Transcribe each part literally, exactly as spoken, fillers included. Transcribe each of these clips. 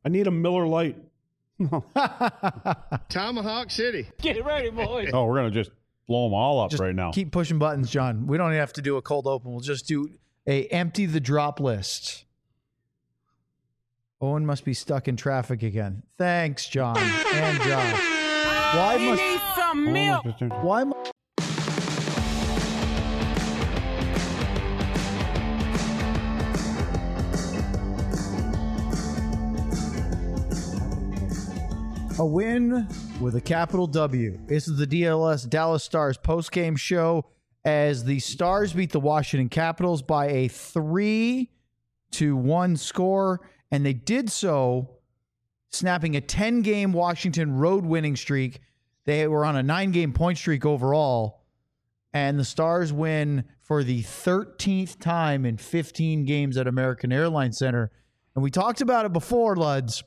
I need a Miller Lite. Tomahawk City. Get ready, boys. Oh, we're going to just blow them all up Just right now. Keep pushing buttons, John. We don't even have to do a cold open. We'll just do a empty the drop list. Owen must be stuck in traffic again. Thanks, John and Josh. Why He must needs some milk. why mu- a win with a capital W. This is the D L S Dallas Stars post-game show as the Stars beat the Washington Capitals by a three to one score, and they did so snapping a ten-game Washington road winning streak. They were on a nine-game point streak overall, and the Stars win for the thirteenth time in fifteen games at American Airlines Center. And we talked about it before, Luds.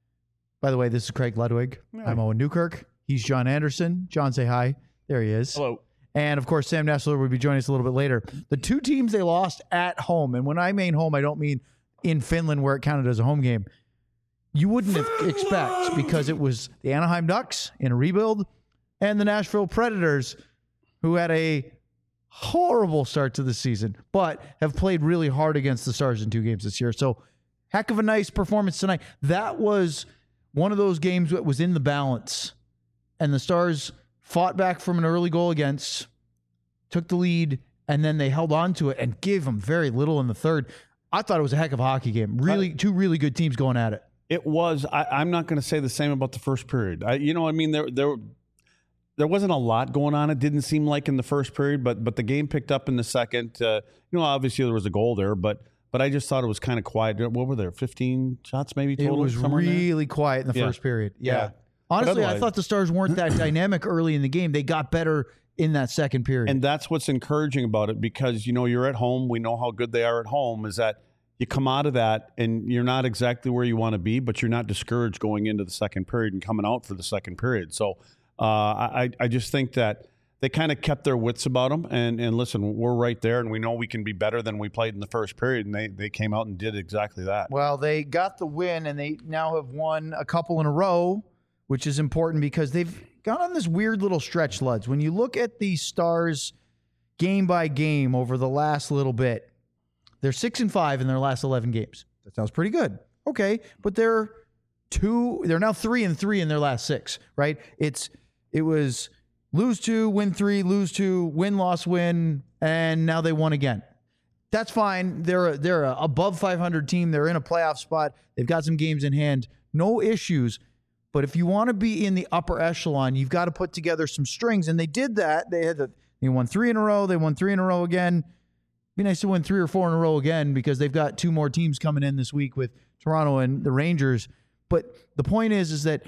By the way, this is Craig Ludwig. Yeah. I'm Owen Newkirk. He's John Anderson. John, say hi. There he is. Hello. And, of course, Sam Nessler will be joining us a little bit later. The two teams they lost at home, and when I mean home, I don't mean in Finland where it counted as a home game. You wouldn't have expect because it was the Anaheim Ducks in a rebuild and the Nashville Predators who had a horrible start to the season but have played really hard against the Stars in two games this year. So heck of a nice performance tonight. That was one of those games that was in the balance, and the Stars fought back from an early goal against, took the lead, and then they held on to it and gave them very little in the third. I thought it was a heck of a hockey game. Really, two really good teams going at it. It was. I, I'm not going to say the same about the first period. I, you know, I mean, there, there, there wasn't a lot going on. It didn't seem like in the first period, but but the game picked up in the second. Uh, you know, obviously there was a goal there, but but I just thought it was kind of quiet. What were there? fifteen shots maybe total? It was somewhere in there? really quiet in the Yeah. first period. Yeah. Yeah. Honestly, I otherwise- thought the Stars weren't that dynamic early in the game. They got better in that second period. And that's what's encouraging about it because, you know, you're at home. We know how good they are at home is that you come out of that and you're not exactly where you want to be, but you're not discouraged going into the second period and coming out for the second period. So uh, I, I just think that they kind of kept their wits about them. And, and listen, we're right there and we know we can be better than we played in the first period. And they, they came out and did exactly that. Well, they got the win, and they now have won a couple in a row, which is important because they've gone on this weird little stretch, Luds. When you look at the Stars game by game over the last little bit, they're six and five in their last eleven games. That sounds pretty good. Okay, but they're two. They're now three and three in their last six. Right? It's it was lose two, win three, lose two, win, loss, win, and now they won again. That's fine. They're a, they're a above five hundred team. They're in a playoff spot. They've got some games in hand. No issues. But if you want to be in the upper echelon, you've got to put together some strings. And they did that. They had the, they won three in a row. They won three in a row again. Be nice to win three or four in a row again because they've got two more teams coming in this week with Toronto and the Rangers. But the point is, is that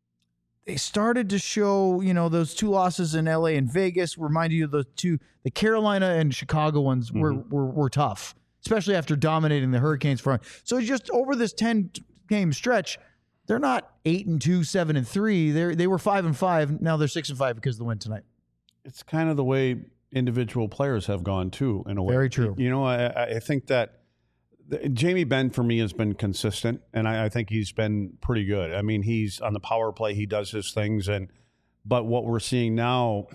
they started to show, you know, those two losses in L A and Vegas reminded you of the two, the Carolina and Chicago ones were, Mm-hmm. were, were tough, especially after dominating the Hurricanes front. So just over this ten game stretch, they're not eight and two, seven and three. They they were five and five. Now they're six and five because of the win tonight. It's kind of the way individual players have gone too, in a way. Very true. You know, I, I think that the, Jamie Benn for me has been consistent, and I, I think he's been pretty good. I mean, he's on the power play; he does his things, and but what we're seeing now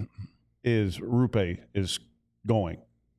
is Rupe is going.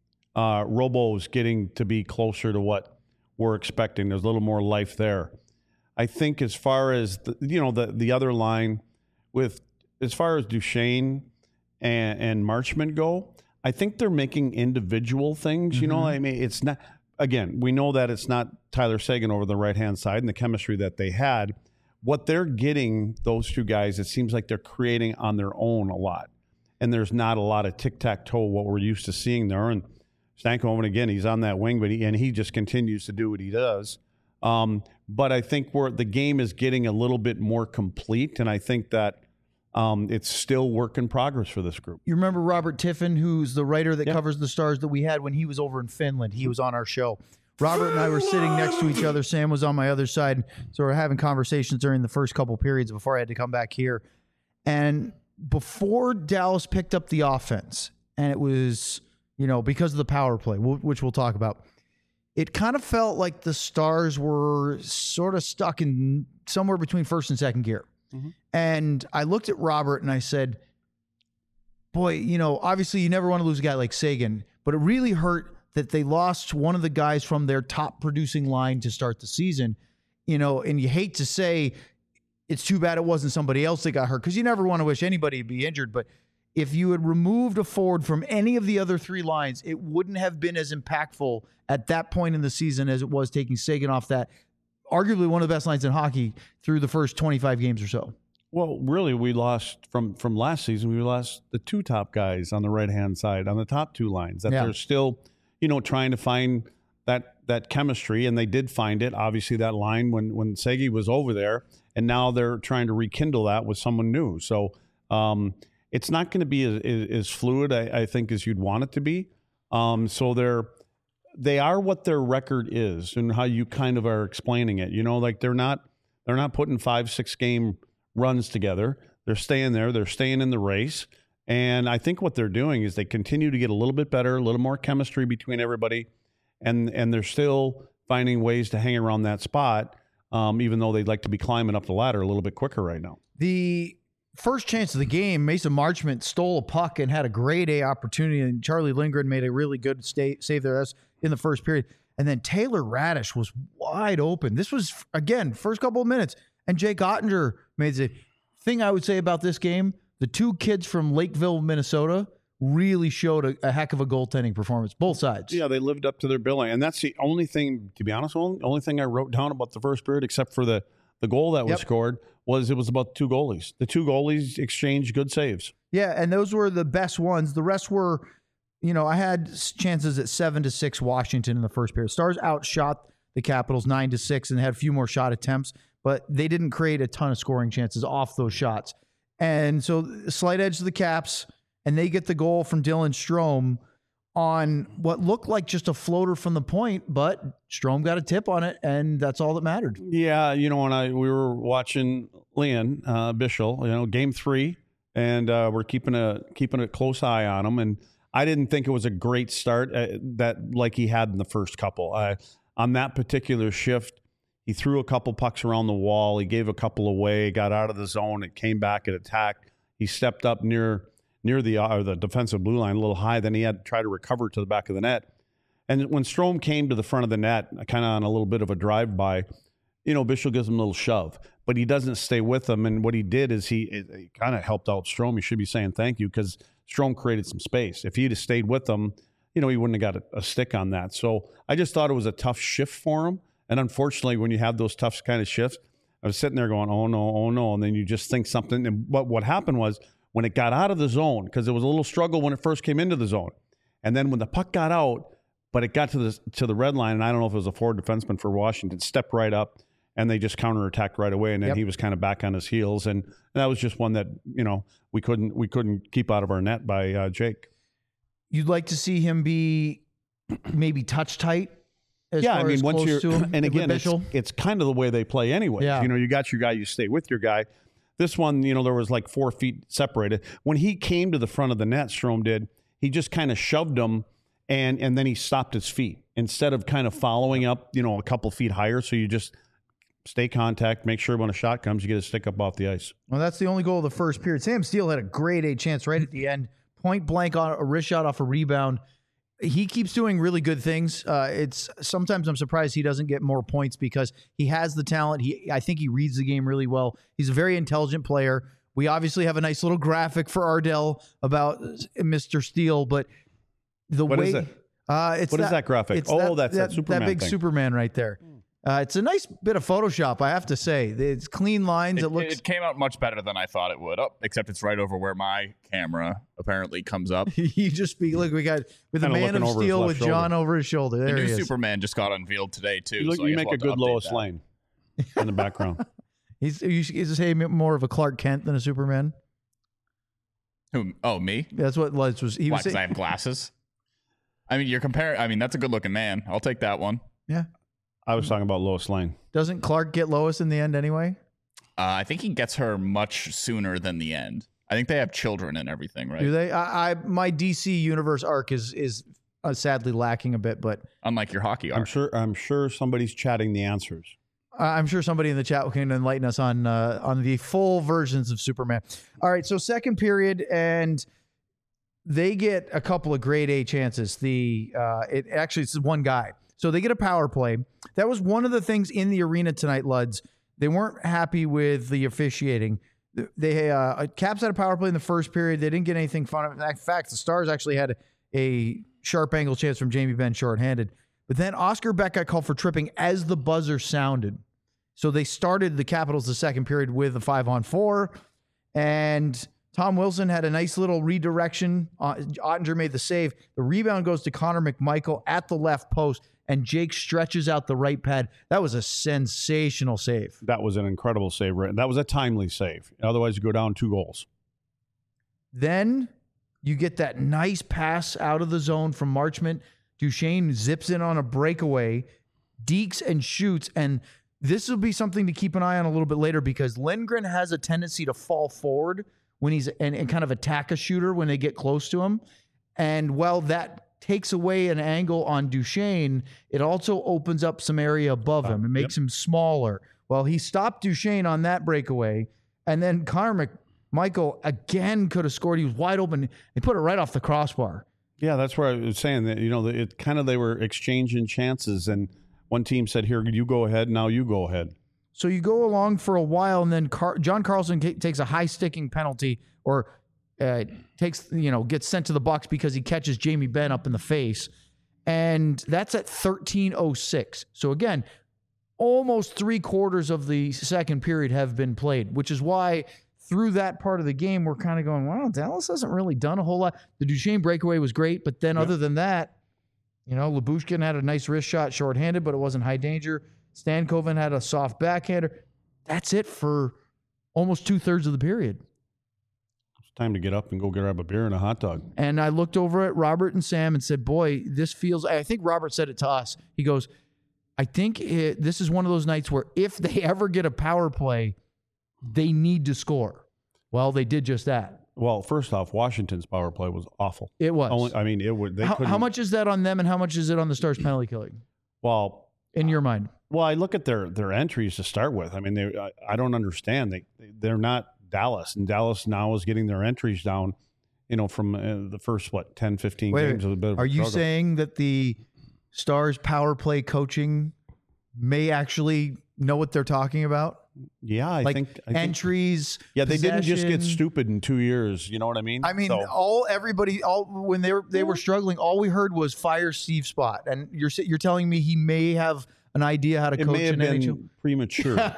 Uh, Robo is getting to be closer to what we're expecting. There's a little more life there. I think as far as the, you know the the other line with as far as Duchesne and, and Marchment go, I think they're making individual things. You know, I mean, it's not. Again, we know that it's not Tyler Seguin over the right hand side and the chemistry that they had. What they're getting, those two guys, it seems like they're creating on their own a lot, and there's not a lot of tic tac toe what we're used to seeing there. And Stankoven again, he's on that wing, but he, and he just continues to do what he does. Um, but I think where the game is getting a little bit more complete, and I think that um, it's still work in progress for this group. You remember Robert Tiffin, who's the writer that Yeah. covers the Stars that we had when he was over in Finland. He was on our show. Robert and I were sitting next to each other. Sam was on my other side. So we're having conversations during the first couple periods before I had to come back here. And before Dallas picked up the offense, and it was, you know, because of the power play, which we'll talk about, it kind of felt like the Stars were sort of stuck in somewhere between first and second gear. Mm-hmm. And I looked at Robert and I said, boy, you know, obviously you never want to lose a guy like Seguin, but it really hurt that they lost one of the guys from their top producing line to start the season. You know, and you hate to say it's too bad it wasn't somebody else that got hurt, because you never want to wish anybody to be injured. But if you had removed a forward from any of the other three lines, it wouldn't have been as impactful at that point in the season as it was taking Seguin off that, arguably one of the best lines in hockey through the first twenty-five games or so. Well, really, we lost from, from last season. We lost the two top guys on the right-hand side, on the top two lines, that Yeah. they're still, you know, trying to find that that chemistry, and they did find it. Obviously, that line when when Segi was over there, and now they're trying to rekindle that with someone new. So um, it's not going to be as, as fluid, I, I think, as you'd want it to be. Um, so they're they are what their record is, and how you kind of are explaining it. You know, like they're not they're not putting five six game runs together. They're staying there. They're staying in the race. And I think what they're doing is they continue to get a little bit better, a little more chemistry between everybody. And and they're still finding ways to hang around that spot, um, even though they'd like to be climbing up the ladder a little bit quicker right now. The first chance of the game, Mason Marchment stole a puck and had a grade A opportunity, and Charlie Lindgren made a really good stay, save there in the first period. And then Taylor Radish was wide open. This was, again, first couple of minutes. And Jake Ottinger made the thing I would say about this game, the two kids from Lakeville, Minnesota, really showed a, a heck of a goaltending performance, both sides. Yeah, they lived up to their billing. And that's the only thing, to be honest, only, only thing I wrote down about the first period, except for the, the goal that was Yep. scored, was it was about the two goalies. The two goalies exchanged good saves. Yeah, and those were the best ones. The rest were, you know, I had chances at seven to six Washington in the first period. Stars outshot the Capitals nine to six and had a few more shot attempts, but they didn't create a ton of scoring chances off those shots. And so slight edge to the Caps, and they get the goal from Dylan Strome on what looked like just a floater from the point, but Strome got a tip on it, and that's all that mattered. Yeah, you know, when I we were watching Leon uh, Bischel, you know, game three, and uh, we're keeping a keeping a close eye on him, and I didn't think it was a great start uh, that like he had in the first couple. Uh, on that particular shift, he threw a couple pucks around the wall. He gave a couple away, got out of the zone. It came back and attacked. He stepped up near near the uh, the defensive blue line a little high. Then he had to try to recover to the back of the net. And when Strome came to the front of the net, kind of on a little bit of a drive-by, you know, Bischel gives him a little shove. But he doesn't stay with him. And what he did is he, he kind of helped out Strome. He should be saying thank you, because Strome created some space. If he'd have stayed with him, you know, he wouldn't have got a, a stick on that. So I just thought it was a tough shift for him. And unfortunately, when you have those tough kind of shifts, I was sitting there going, oh, no, oh, no. And then you just think something. And what, what happened was when it got out of the zone, because there was a little struggle when it first came into the zone. And then when the puck got out, but it got to the, to the red line, and I don't know if it was a forward defenseman for Washington, stepped right up, and they just counterattacked right away. And then Yep. he was kind of back on his heels. And that was just one that, you know, we couldn't we couldn't keep out of our net by uh, Jake. You'd like to see him be maybe touch tight. As Yeah, far I mean, as once close you're, to him, and with again, it's, Bischel. it's kind of the way they play anyway. Yeah. You know, you got your guy, you stay with your guy. This one, you know, there was like four feet separated. When he came to the front of the net, Strome did, he just kind of shoved him, and and then he stopped his feet instead of kind of following up, you know, a couple feet higher. So you just stay contact, make sure when a shot comes, you get a stick up off the ice. Well, that's the only goal of the first period. Sam Steele had a grade A chance right at the end, point blank on a wrist shot off a rebound. He keeps doing really good things. Uh, it's sometimes I'm surprised he doesn't get more points because he has the talent. He, I think he reads the game really well. He's a very intelligent player. We obviously have a nice little graphic for Ardell about Mister Steele, but the What way is it? Uh, it's What is that graphic? it's Oh, that's that Superman That big thing. Superman right there. Uh, it's a nice bit of Photoshop, I have to say. It's clean lines. It, It, looks. it came out much better than I thought it would. Oh, except it's right over where my camera apparently comes up. You just be look. We got with the Kinda Man looking of over his Steel left with shoulder. John over his shoulder. The There new he is. Superman just got unveiled today too. You, look, so I you guess make we'll a have to good update Lois that. Lane in the background. He's he's he's say more of a Clark Kent than a Superman. Who? Oh, me? That's what Les was. He Why? was Because I saying. have glasses. I mean, you're comparing. I mean, that's a good-looking man. I'll take that one. Yeah. I was talking about Lois Lane. Doesn't Clark get Lois in the end anyway? Uh, I think he gets her much sooner than the end. I think they have children and everything, right? Do they? I, I my D C universe arc is is uh, sadly lacking a bit. But Unlike your hockey I'm arc. sure. I'm sure somebody's chatting the answers. I'm sure somebody in the chat can enlighten us on uh, on the full versions of Superman. All right, so second period, and they get a couple of grade A chances. The uh, it actually it's one guy, so they get a power play. That was one of the things in the arena tonight, Luds. They weren't happy with the officiating. They uh, Caps had a power play in the first period. They didn't get anything fun. In fact, the Stars actually had a sharp angle chance from Jamie Benn shorthanded. But then Oscar Beck got called for tripping as the buzzer sounded. So they started the Capitals the second period with a five on four. And Tom Wilson had a nice little redirection. Uh, Ottinger made the save. The rebound goes to Connor McMichael at the left post. And Jake stretches out the right pad. That was a sensational save. That was an incredible save. That was a timely save. Otherwise, you go down two goals. Then you get that nice pass out of the zone from Marchment. Duchesne zips in on a breakaway, dekes and shoots. And this will be something to keep an eye on a little bit later because Lindgren has a tendency to fall forward when he's and, and kind of attack a shooter when they get close to him. And while that takes away an angle on Duchesne, it also opens up some area above him. It makes yep. him smaller. Well, he stopped Duchesne on that breakaway. And then Connor McMichael again could have scored. He was wide open. He put it right off the crossbar. Yeah, that's where I was saying that, you know, it kind of they were exchanging chances. And one team said, here, you go ahead. Now you go ahead. So you go along for a while, and then Car- John Carlson t- takes a high sticking penalty or uh, takes, you know, gets sent to the box because he catches Jamie Benn up in the face. And that's at thirteen oh six. So again, almost three quarters of the second period have been played, which is why through that part of the game, we're kind of going, wow, Dallas hasn't really done a whole lot. The Duchesne breakaway was great, but then yep. other than that, you know, Lyubushkin had a nice wrist shot shorthanded, but it wasn't high danger. Stankoven had a soft backhander. That's it for almost two-thirds of the period. It's time to get up and go grab a beer and a hot dog. And I looked over at Robert and Sam and said, boy, this feels – I think Robert said it to us. He goes, I think it, this is one of those nights where if they ever get a power play, they need to score. Well, they did just that. Well, first off, Washington's power play was awful. It was. Only, I mean, it would. They how, couldn't. How much is that on them, and how much is it on the Stars penalty killing? Well, in your mind. Well, I look at their their entries to start with. I mean, they. I, I don't understand. They they're not Dallas, and Dallas now is getting their entries down. You know, from uh, the first what ten, fifteen Wait, games. Of a bit of are a you struggle. saying that the Stars power play coaching may actually know what they're talking about? Yeah, I like think I entries. Think, yeah, they possession. didn't just get stupid in two years. You know what I mean? I mean, so, all everybody, all when they were they were struggling, all we heard was fire Steve Spott, and you're you're telling me he may have an idea how to it coach may have an been N H L premature.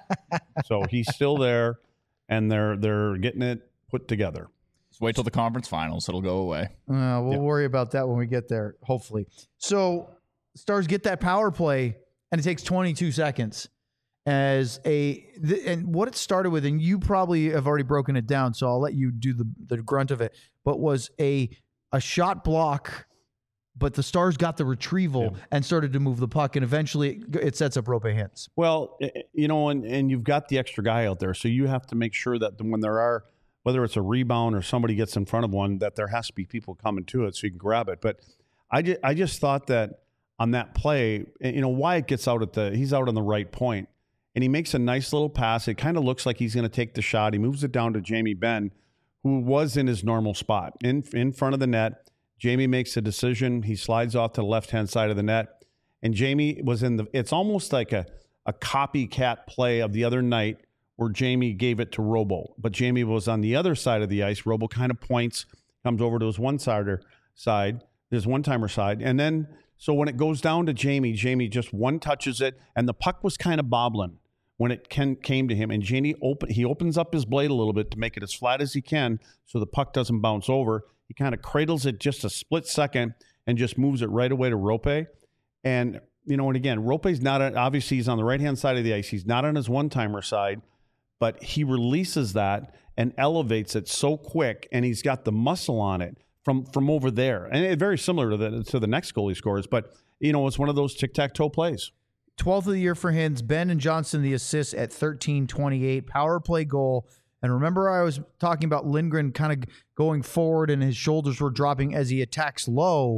So he's still there, and they're they're getting it put together. Just wait till the conference finals; it'll go away. Uh, we'll Yeah. worry about that when we get there, hopefully. So Stars get that power play, and it takes twenty-two seconds. As a th- and what it started with, and you probably have already broken it down, so I'll let you do the the grunt of it. But was a a shot block, but the Stars got the retrieval Yeah. and started to move the puck, and eventually it, it sets up Rope Hintz. Well, eh, you know, and, and you've got the extra guy out there, so you have to make sure that when there are, whether it's a rebound or somebody gets in front of one, that there has to be people coming to it so you can grab it. But I just, I just thought that on that play, you know, Wyatt gets out at the, he's out on the right point. And he makes a nice little pass. It kind of looks like he's going to take the shot. He moves it down to Jamie Benn, who was in his normal spot in in front of the net. Jamie makes a decision. He slides off to the left-hand side of the net. And Jamie was in the – it's almost like a, a copycat play of the other night where Jamie gave it to Robo. But Jamie was on the other side of the ice. Robo kind of points, comes over to his one-sider side, his one-timer side. And then – so when it goes down to Jamie, Jamie just one touches it, and the puck was kind of bobbling when it can, came to him, and Jamie open, he opens up his blade a little bit to make it as flat as he can so the puck doesn't bounce over. He kind of cradles it just a split second and just moves it right away to Rope. And, you know, and again, Rope's not, a, obviously he's on the right-hand side of the ice. He's not on his one-timer side, but he releases that and elevates it so quick, and he's got the muscle on it from from over there. And it's very similar to the, to the next goal he scores, but, you know, it's one of those tic-tac-toe plays. twelfth of the year for Hintz. Benn and Johnson, the assists at thirteen twenty-eight. Power play goal. And remember I was talking about Lindgren kind of going forward and his shoulders were dropping as he attacks low.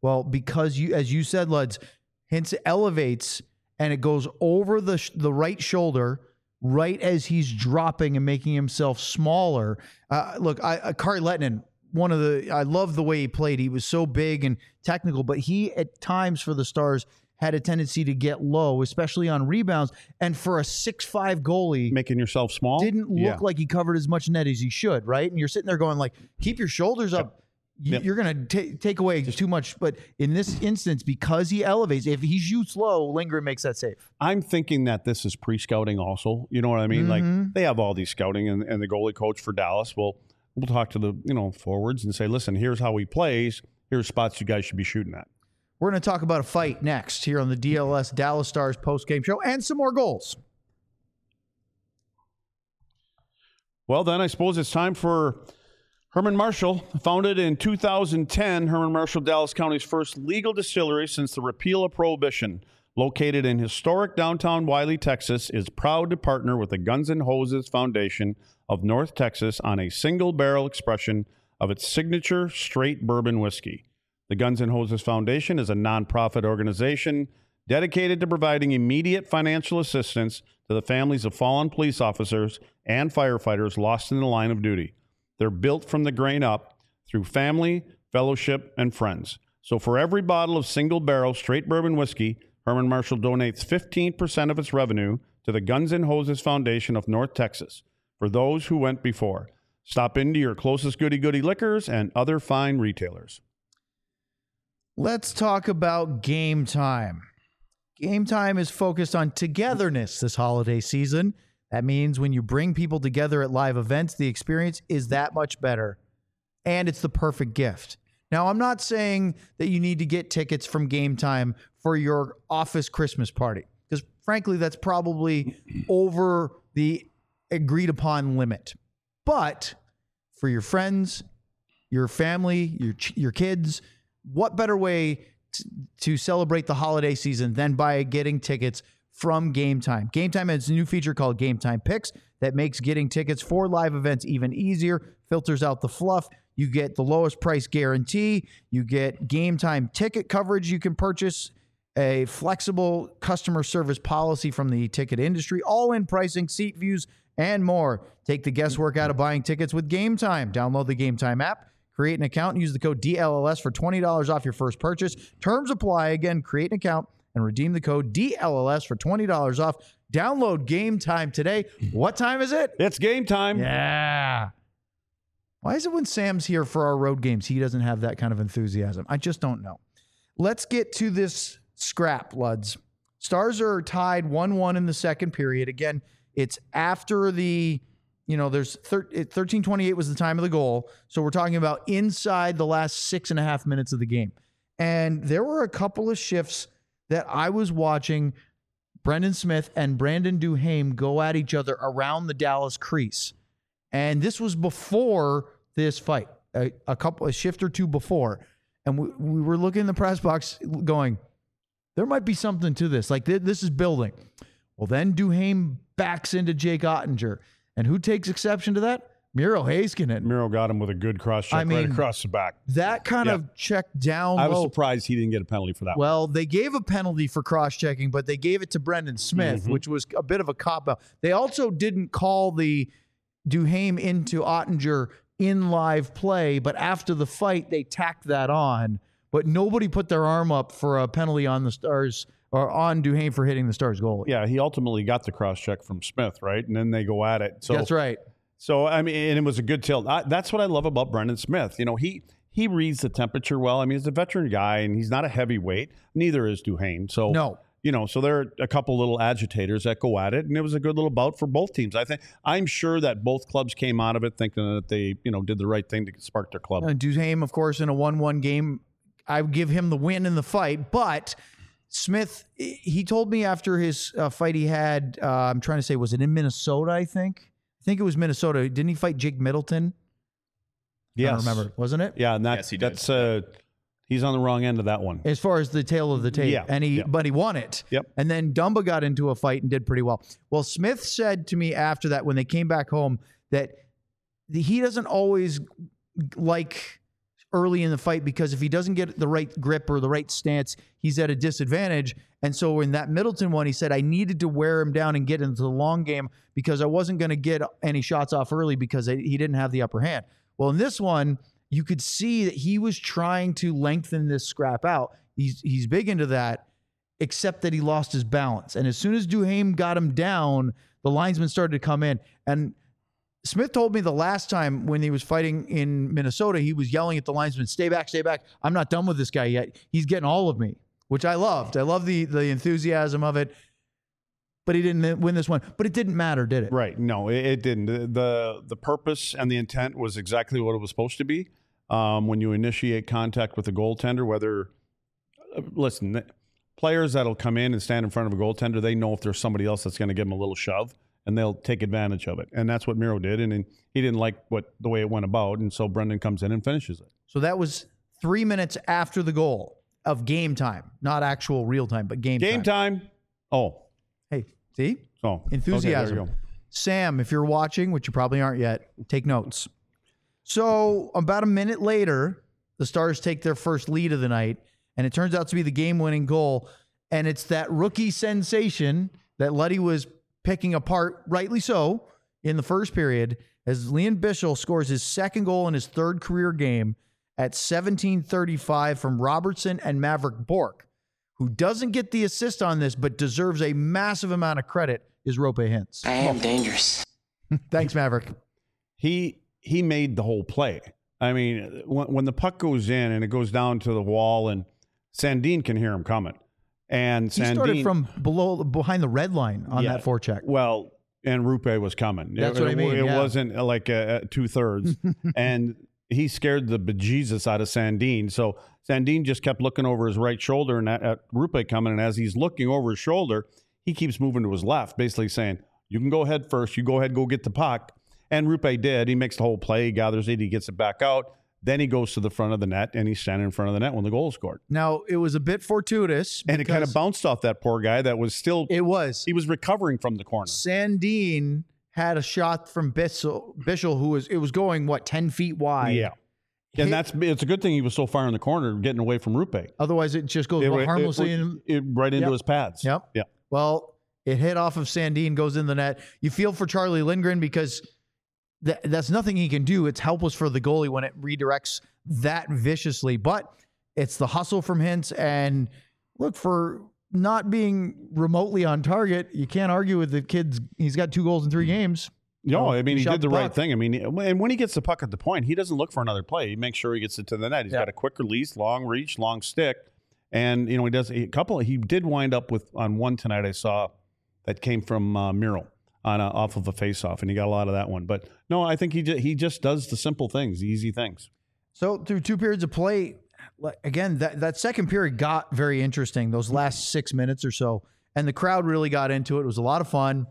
Well, because you, as you said, Luds, Hintz elevates and it goes over the sh- the right shoulder right as he's dropping and making himself smaller. Uh, look, I, uh, Kari Lehtinen, one of the, I love the way he played. He was so big and technical, but he at times for the Stars had a tendency to get low, especially on rebounds. And for a six five goalie, Making yourself small? didn't look Yeah. like he covered as much net as he should, right? And you're sitting there going like, keep your shoulders up. You, Yep. You're going to take away too much. But in this instance, because he elevates, if he shoots low, Lindgren makes that safe. I'm thinking that this is pre-scouting also. You know what I mean? Mhm. Like they have all these scouting and, and the goalie coach for Dallas will we'll talk to the, you know, forwards and say, listen, here's how he plays. Here's spots you guys should be shooting at. We're going to talk about a fight next here on the D L S Dallas Stars post-game show and some more goals. Well, then I suppose it's time for Herman Marshall. Founded in two thousand ten, Herman Marshall, Dallas County's first legal distillery since the repeal of Prohibition, located in historic downtown Wiley, Texas, is proud to partner with the Guns N' Hoses Foundation of North Texas on a single-barrel expression of its signature straight bourbon whiskey. The Guns N' Hoses Foundation is a nonprofit organization dedicated to providing immediate financial assistance to the families of fallen police officers and firefighters lost in the line of duty. They're built from the grain up through family, fellowship, and friends. So for every bottle of single-barrel straight bourbon whiskey, Herman Marshall donates fifteen percent of its revenue to the Guns N' Hoses Foundation of North Texas for those who went before. Stop into your closest Goody Goody Liquors and other fine retailers. Let's talk about Game Time. Game Time is focused on togetherness this holiday season. That means when you bring people together at live events, the experience is that much better. And it's the perfect gift. Now, I'm not saying that you need to get tickets from Game Time for your office Christmas party, because frankly, that's probably over the agreed upon limit. But for your friends, your family, your your kids, what better way to, to celebrate the holiday season than by getting tickets from Game Time? Game Time has a new feature called Game Time Picks that makes getting tickets for live events even easier, filters out the fluff. You get the lowest price guarantee. You get Game Time ticket coverage you can purchase, a flexible customer service policy from the ticket industry, all-in pricing, seat views, and more. Take the guesswork out of buying tickets with Game Time. Download the Game Time app, create an account, and use the code D L L S for twenty dollars off your first purchase. Terms apply. Again, create an account and redeem the code D L L S for twenty dollars off. Download Game Time today. What time is it? It's game time. Yeah. Why is it when Sam's here for our road games, he doesn't have that kind of enthusiasm? I just don't know. Let's get to this scrap, Luds. Stars are tied one one in the second period. Again, it's after the, you know, there's thirteen twenty-eight was the time of the goal. So we're talking about inside the last six and a half minutes of the game. And there were a couple of shifts that I was watching Brendan Smith and Brandon Duhaime go at each other around the Dallas crease. And this was before this fight, a, a couple, a shift or two before. And we, we were looking in the press box going, there might be something to this. Like, th- this is building. Well, then Duhaime backs into Jake Ottinger. And who takes exception to that? Miro Heiskanen. Miro got him with a good cross check I mean, right across the back. That kind Yeah. of check down I was low. surprised he didn't get a penalty for that one. Well, they gave a penalty for cross-checking, but they gave it to Brendan Smith, Mhm. which was a bit of a cop-out. They also didn't call the Duhaime into Ottinger in live play, but after the fight, they tacked that on. But nobody put their arm up for a penalty on the Stars or on Duhaime for hitting the Stars goalie. Yeah, he ultimately got the cross check from Smith, right? And then they go at it. So That's right. So I mean, and it was a good tilt. I, that's what I love about Brendan Smith. You know, he he reads the temperature well. I mean, he's a veteran guy, and he's not a heavyweight. Neither is Duhaime. So No. you know, so there are a couple little agitators that go at it, and it was a good little bout for both teams. I think I'm sure that both clubs came out of it thinking that they, you know, did the right thing to spark their club. Uh, Duhaime, of course, in a one one game, I would give him the win in the fight. But Smith, he told me after his uh, fight he had, uh, I'm trying to say, was it in Minnesota, I think? I think it was Minnesota. Didn't he fight Jake Middleton? Yes. I don't remember. Wasn't it? Yeah, and that, Yes, he did. that's uh, he's on the wrong end of that one. As far as the tail of the tape. Yeah, And he, yeah. but he won it. Yep. And then Dumba got into a fight and did pretty well. Well, Smith said to me after that, when they came back home, that he doesn't always like early in the fight because if he doesn't get the right grip or the right stance, he's at a disadvantage. And so in that Middleton one, he said, I needed to wear him down and get into the long game because I wasn't going to get any shots off early because he didn't have the upper hand. Well, in this one, you could see that he was trying to lengthen this scrap out. He's he's big into that, except that he lost his balance. And as soon as Duhaime got him down, the linesman started to come in. And Smith told me the last time when he was fighting in Minnesota, he was yelling at the linesman, stay back, stay back. I'm not done with this guy yet. He's getting all of me, which I loved. I love the the enthusiasm of it. But he didn't win this one. But it didn't matter, did it? Right. No, it, it didn't. The, the the purpose and the intent was exactly what it was supposed to be. Um, when you initiate contact with a goaltender, whether, uh, listen, players that'll come in and stand in front of a goaltender, they know if there's somebody else that's going to give them a little shove, and they'll take advantage of it. And that's what Miro did. And, and he didn't like what the way it went about. And so Brendan comes in and finishes it. So that was three minutes after the goal of game time, not actual real time, but game, Game time. time. Oh, Hey, see? oh, Enthusiasm. Okay, there you go. Sam, if you're watching, which you probably aren't yet, take notes. So about a minute later, the Stars take their first lead of the night, and it turns out to be the game-winning goal. And it's that rookie sensation that Luddy was picking apart, rightly so, in the first period, as Liam Bichsel scores his second goal in his third career game at seventeen thirty-five from Robertson and Maverick Bourque, who doesn't get the assist on this but deserves a massive amount of credit, is Roope Hintz. I am dangerous. Thanks, Maverick. He he made the whole play. I mean, when, when the puck goes in and it goes down to the wall, and Sandin can hear him coming. And He Sandin, started from below, behind the red line on Yeah. that forecheck. Well, and Roope was coming. That's it, what I mean, It yeah. wasn't like uh, two thirds, and he scared the bejesus out of Sandin. So Sandin just kept looking over his right shoulder and at, at Roope coming. And as he's looking over his shoulder, he keeps moving to his left, basically saying, "You can go ahead first. You go ahead, go get the puck." And Roope did. He makes the whole play. He gathers it. He gets it back out. Then he goes to the front of the net, and he's standing in front of the net when the goal is scored. Now, it was a bit fortuitous. And it kind of because bounced off that poor guy that was still, It was. he was recovering from the corner. Sandin had a shot from Bichsel, Bichsel who was, it was going, what, ten feet wide? Yeah. Hit- And that's it's a good thing he was so far in the corner, getting away from Roope. Otherwise, it just goes It, it- harmlessly. it- in, it- right into Yep. his pads. Yep. Yeah. Well, it hit off of Sandin, goes in the net. You feel for Charlie Lindgren because th- that's nothing he can do. It's helpless for the goalie when it redirects that viciously. But it's the hustle from Hintz. And look, for not being remotely on target, you can't argue with the kid's. He's got two goals in three games. No, I mean, he shot did the the right puck. thing. I mean, and when he gets the puck at the point, he doesn't look for another play. He makes sure he gets it to the net. He's Yeah. got a quick release, long reach, long stick. And, you know, he does a couple. He did wind up with on one tonight I saw that came from uh, Miro on a, off of a faceoff, and he got a lot of that one. But no, I think he just, he just does the simple things, the easy things. So through two periods of play, like, again, that, that second period got very interesting, those last six minutes or so. And the crowd really got into it. It was a lot of fun.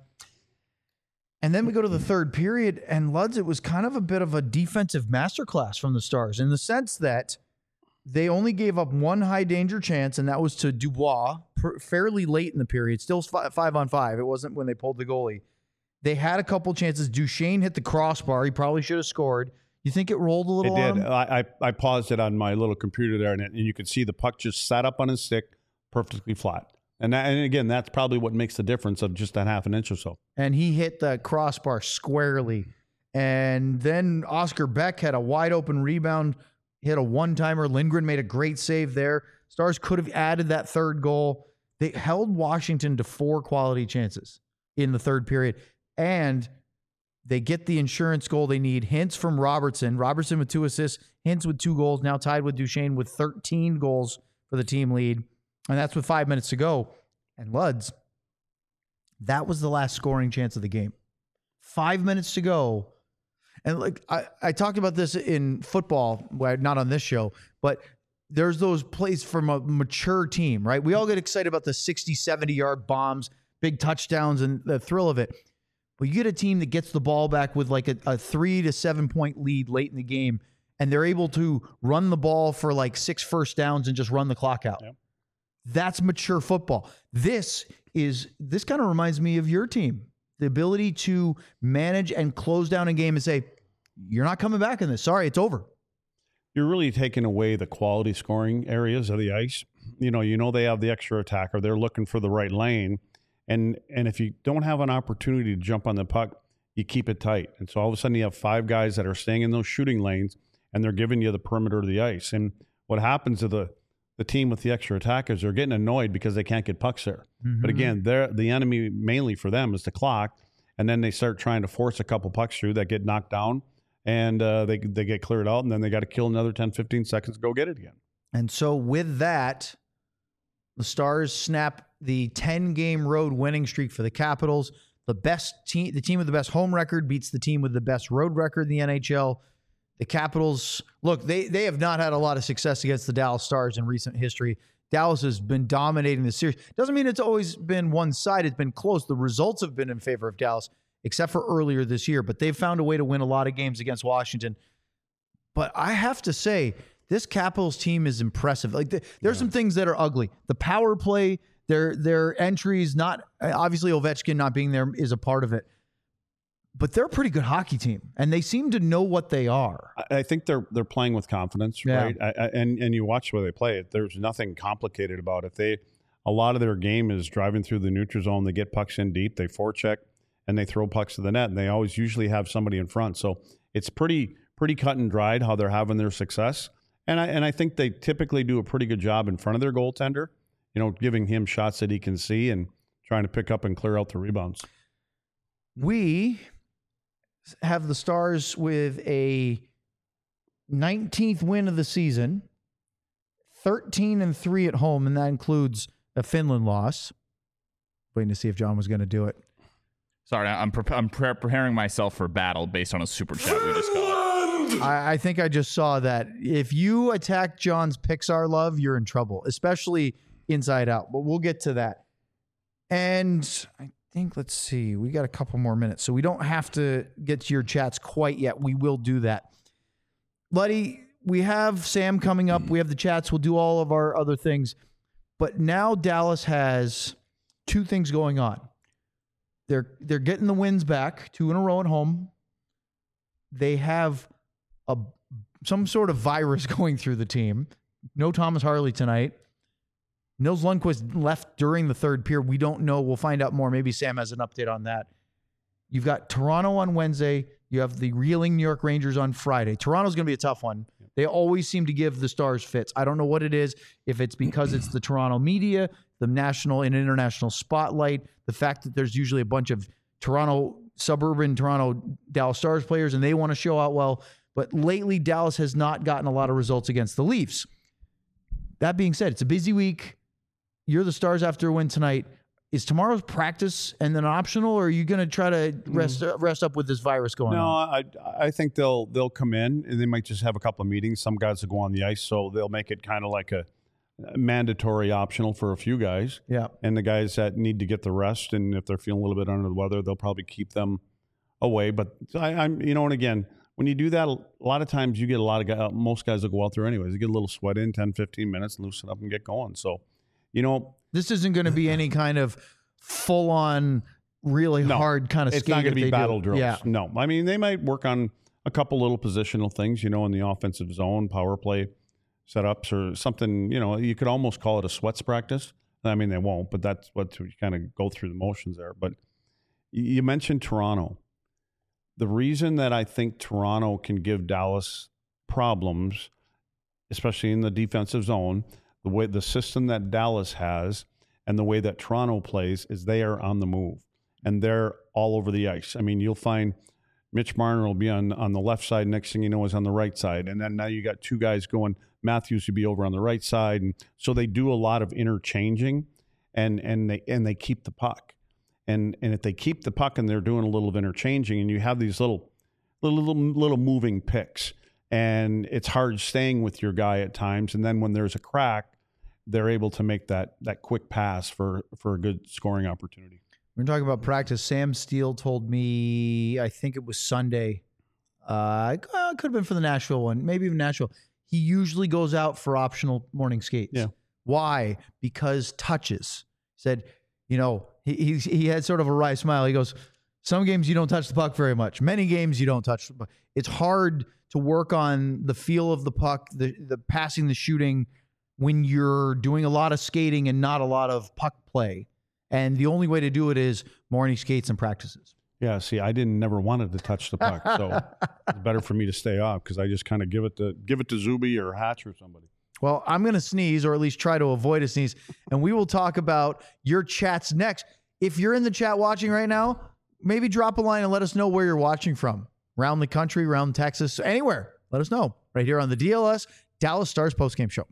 And then we go to the third period, and Luds, it was kind of a bit of a defensive masterclass from the Stars in the sense that they only gave up one high danger chance, and that was to Dubois per, fairly late in the period. Still five, five on five. It wasn't when they pulled the goalie. They had a couple chances. Duchesne hit the crossbar. He probably should have scored. You think it rolled a It little on did. him? I, I I paused it on my little computer there, and, it, and you could see the puck just sat up on his stick, perfectly flat. And that, and again, that's probably what makes the difference of just that half an inch or so. And he hit the crossbar squarely. And then Oscar Beck had a wide open rebound, hit a one-timer. Lindgren made a great save there. Stars could have added that third goal. They held Washington to four quality chances in the third period. And they get the insurance goal they need. Hintz from Robertson. Robertson with two assists. Hintz with two goals. Now tied with Duchesne with thirteen goals for the team lead. And that's with five minutes to go. And Luds, that was the last scoring chance of the game. Five minutes to go. And like I, I talked about this in football, well, not on this show, but there's those plays from a mature team, right? We all get excited about the sixty, seventy-yard bombs, big touchdowns, and the thrill of it. But you get a team that gets the ball back with like a, a three to seven point lead late in the game, and they're able to run the ball for like six first downs and just run the clock out. Yep. That's mature football. This is this kind of reminds me of your team. The ability to manage and close down a game and say, you're not coming back in this. Sorry, it's over. you're really taking away the quality scoring areas of the ice. You know, you know they have the extra attacker. They're looking for the right lane. And and if you don't have an opportunity to jump on the puck, you keep it tight. And so all of a sudden you have five guys that are staying in those shooting lanes, and they're giving you the perimeter of the ice. And what happens to the, the team with the extra attackers, they're getting annoyed because they can't get pucks there. Mm-hmm. But again, they're, the enemy mainly for them is the clock. And then they start trying to force a couple pucks through that get knocked down, and uh, they, they get cleared out, and then they got to kill another ten, fifteen seconds to go get it again. And so with that, the Stars snap the ten-game road winning streak for the Capitals. The best team, the team with the best home record beats the team with the best road record in the N H L. The Capitals, look, they they have not had a lot of success against the Dallas Stars in recent history. Dallas has been dominating the series. Doesn't mean it's always been one-sided. It's been close. The results have been in favor of Dallas, except for earlier this year. But they've found a way to win a lot of games against Washington. But I have to say, this Capitals team is impressive. Like the, there's yeah. some things that are ugly. The power play, their their entries, not obviously Ovechkin not being there is a part of it. But they're a pretty good hockey team, and they seem to know what they are. I think they're they're playing with confidence, yeah. right? I, I, and and you watch where they play it. There's nothing complicated about it. They a lot of their game is driving through the neutral zone. They get pucks in deep. They forecheck and they throw pucks to the net. And they always usually have somebody in front. So it's pretty pretty cut and dried how they're having their success. And I and I think they typically do a pretty good job in front of their goaltender. You know, giving him shots that he can see and trying to pick up and clear out the rebounds. We have the Stars with a nineteenth win of the season, thirteen and three at home, and that includes a Finland loss. Waiting to see if John was going to do it. Sorry, I'm pre- I'm pre- preparing myself for battle based on a super chat we just got. I, I think I just saw that. If you attack John's Pixar love, you're in trouble, especially Inside Out. But we'll get to that. And I think, let's see, we got a couple more minutes, so we don't have to get to your chats quite yet. We will do that. Luddy, we have Sam coming up. We have the chats. We'll do all of our other things. But now Dallas has two things going on. They're they're getting the wins back, two in a row at home. They have a some sort of virus going through the team. No Thomas Harley tonight. Nils Lundqvist left during the third period. We don't know. We'll find out more. Maybe Sam has an update on that. You've got Toronto on Wednesday. You have the reeling New York Rangers on Friday. Toronto's going to be a tough one. They always seem to give the Stars fits. I don't know what it is, if it's because it's the Toronto media, the national and international spotlight, the fact that there's usually a bunch of Toronto, suburban Toronto Dallas Stars players, and they want to show out well. But lately, Dallas has not gotten a lot of results against the Leafs. That being said, it's a busy week. You're the Stars after a win tonight. Is tomorrow's practice and then optional, or are you going to try to rest mm. rest up with this virus going no, on? No, I I think they'll they'll come in and they might just have a couple of meetings. Some guys will go on the ice, so they'll make it kind of like a, a mandatory optional for a few guys. Yeah, and the guys that need to get the rest, and if they're feeling a little bit under the weather, they'll probably keep them away. But I, I'm you know, and again, when you do that, a lot of times you get a lot of guys. Most guys will go out there anyways. They get a little sweat in, ten, fifteen minutes, loosen up and get going. So, you know, this isn't going to be any kind of full-on, really no, hard kind of it's skate. It's not going to be battle do. drills. Yeah. No, I mean, they might work on a couple little positional things, you know, in the offensive zone, power play setups or something. You know, you could almost call it a sweats practice. I mean, they won't, but that's what you kind of go through the motions there. But you mentioned Toronto. The reason that I think Toronto can give Dallas problems, especially in the defensive zone, the way the system that Dallas has and the way that Toronto plays is they are on the move and they're all over the ice. I mean, you'll find Mitch Marner will be on, on the left side. Next thing you know is on the right side. And then now you got two guys going. Matthews would be over on the right side. And so they do a lot of interchanging and, and they, and they keep the puck. And, and if they keep the puck and they're doing a little of interchanging and you have these little, little, little, little moving picks and it's hard staying with your guy at times. And then when there's a crack, they're able to make that that quick pass for, for a good scoring opportunity. We're talking about practice. Sam Steele told me, I think it was Sunday. Uh, it could have been for the Nashville one, maybe even Nashville. He usually goes out for optional morning skates. Yeah. Why? Because touches. He said, you know, he, he he had sort of a wry smile. He goes, Some games you don't touch the puck very much. Many games you don't touch the puck. It's hard to work on the feel of the puck, the, the passing, the shooting, when you're doing a lot of skating and not a lot of puck play. And the only way to do it is morning skates and practices. Yeah, see, I didn't never wanted to touch the puck, so it's better for me to stay off because I just kind of give it to give it to Zuby or Hatch or somebody. Well, I'm going to sneeze, or at least try to avoid a sneeze, and we will talk about your chats next. If you're in the chat watching right now, maybe drop a line and let us know where you're watching from. Around the country, around Texas, anywhere. Let us know. Right here on the D L S Dallas Stars postgame show.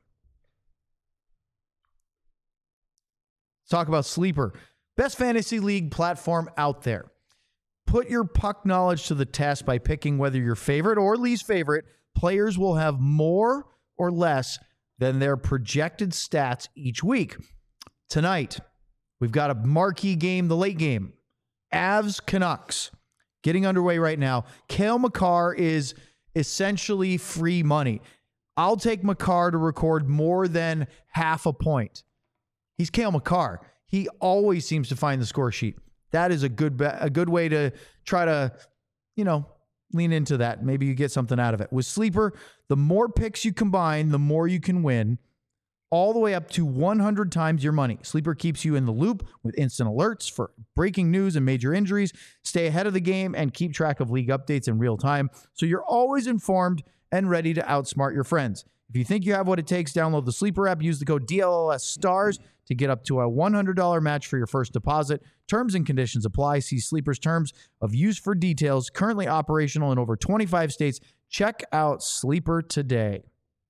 Let's talk about Sleeper. Best fantasy league platform out there. Put your puck knowledge to the test by picking whether your favorite or least favorite players will have more or less than their projected stats each week. Tonight, we've got a marquee game, the late game. Avs Canucks getting underway right now. Cale Makar is essentially free money. I'll take Makar to record more than half a point. He's Cale Makar. He always seems to find the score sheet. That is a good be- a good way to try to, you know, lean into that. Maybe you get something out of it. With Sleeper, the more picks you combine, the more you can win, all the way up to one hundred times your money. Sleeper keeps you in the loop with instant alerts for breaking news and major injuries. Stay ahead of the game and keep track of league updates in real time so you're always informed and ready to outsmart your friends. If you think you have what it takes, download the Sleeper app. Use the code D L L S STARS to get up to a one hundred dollars match for your first deposit. Terms and conditions apply. See Sleeper's terms of use for details. Currently operational in over twenty-five states. Check out Sleeper today.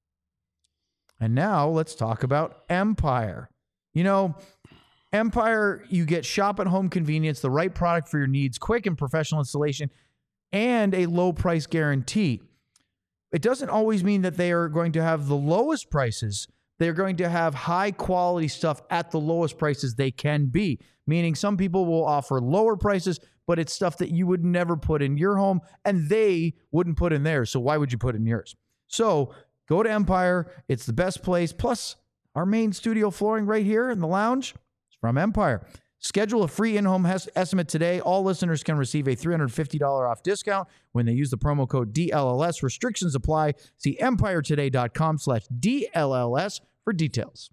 And now let's talk about Empire. You know, Empire, you get shop at home convenience, the right product for your needs, quick and professional installation, and a low price guarantee. It doesn't always mean that they are going to have the lowest prices. They're going to have high quality stuff at the lowest prices they can be. Meaning some people will offer lower prices, but it's stuff that you would never put in your home and they wouldn't put in theirs. So why would you put in yours? So go to Empire. It's the best place. Plus, our main studio flooring right here in the lounge is from Empire. Schedule a free in-home hes- estimate today. All listeners can receive a three hundred fifty dollars off discount when they use the promo code D L L S. Restrictions apply. See empiretoday.com slash DLLS for details.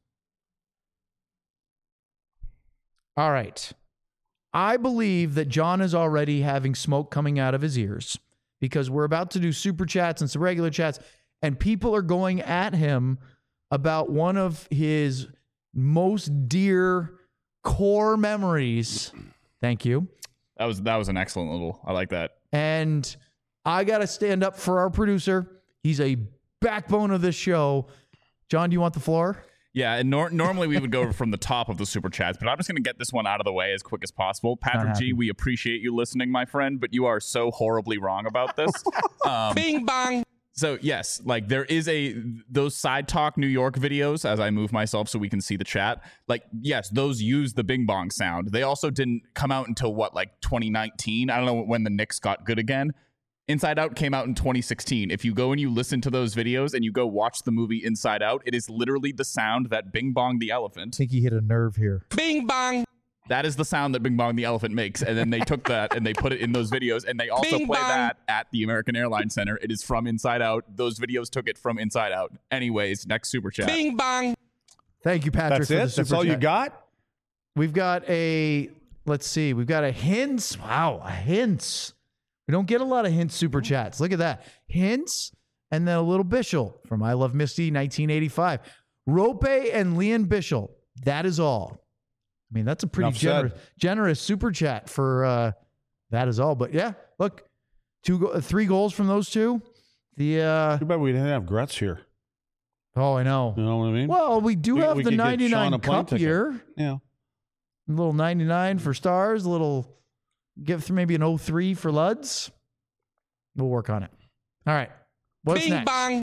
All right. I believe that John is already having smoke coming out of his ears because we're about to do super chats and some regular chats, and people are going at him about one of his most dear core memories. Thank you. That was that was an excellent little. I like that. And I got to stand up for our producer. He's a backbone of this show. John, do you want the floor? Yeah, and nor- normally we would go from the top of the super chats, but I'm just going to get this one out of the way as quick as possible. Patrick G, we appreciate you listening, my friend, but you are so horribly wrong about this. Um, Bing bong. So yes, like there is a those Side Talk New York videos as I move myself so we can see the chat. Like yes, those use the Bing Bong sound. They also didn't come out until what, like twenty nineteen. I don't know when the Knicks got good again. Inside Out came out in twenty sixteen. If you go and you listen to those videos and you go watch the movie Inside Out, it is literally the sound that Bing Bong the elephant. I think he hit a nerve here. Bing bong. That is the sound that Bing Bong the elephant makes. And then they took that and they put it in those videos. And they also Bing play bong. that at the American Airlines Center. It is from Inside Out. Those videos took it from Inside Out. Anyways, next super chat. Bing bong. Thank you, Patrick. That's for the it? That's super all you chat. got? We've got a, let's see, we've got a hints. Wow, a hints. We don't get a lot of hints super chats. Look at that. Hints and then a little Bishel from I Love Misty nineteen eighty-five. Rope and Leon Bishel. That is all. I mean, that's a pretty Enough generous, said. generous super chat for uh, that is all. But yeah, look, two, go- three goals from those two. The uh, Too bad we didn't have Gretz here. oh, I know. You know what I mean? Well, we do We- have we the could get Sean ninety-nine a plane Cup ticket. here. Yeah. A little ninety-nine for Stars, a little give through maybe an oh three for Luds. We'll work on it. All right. What's Bing next? bong.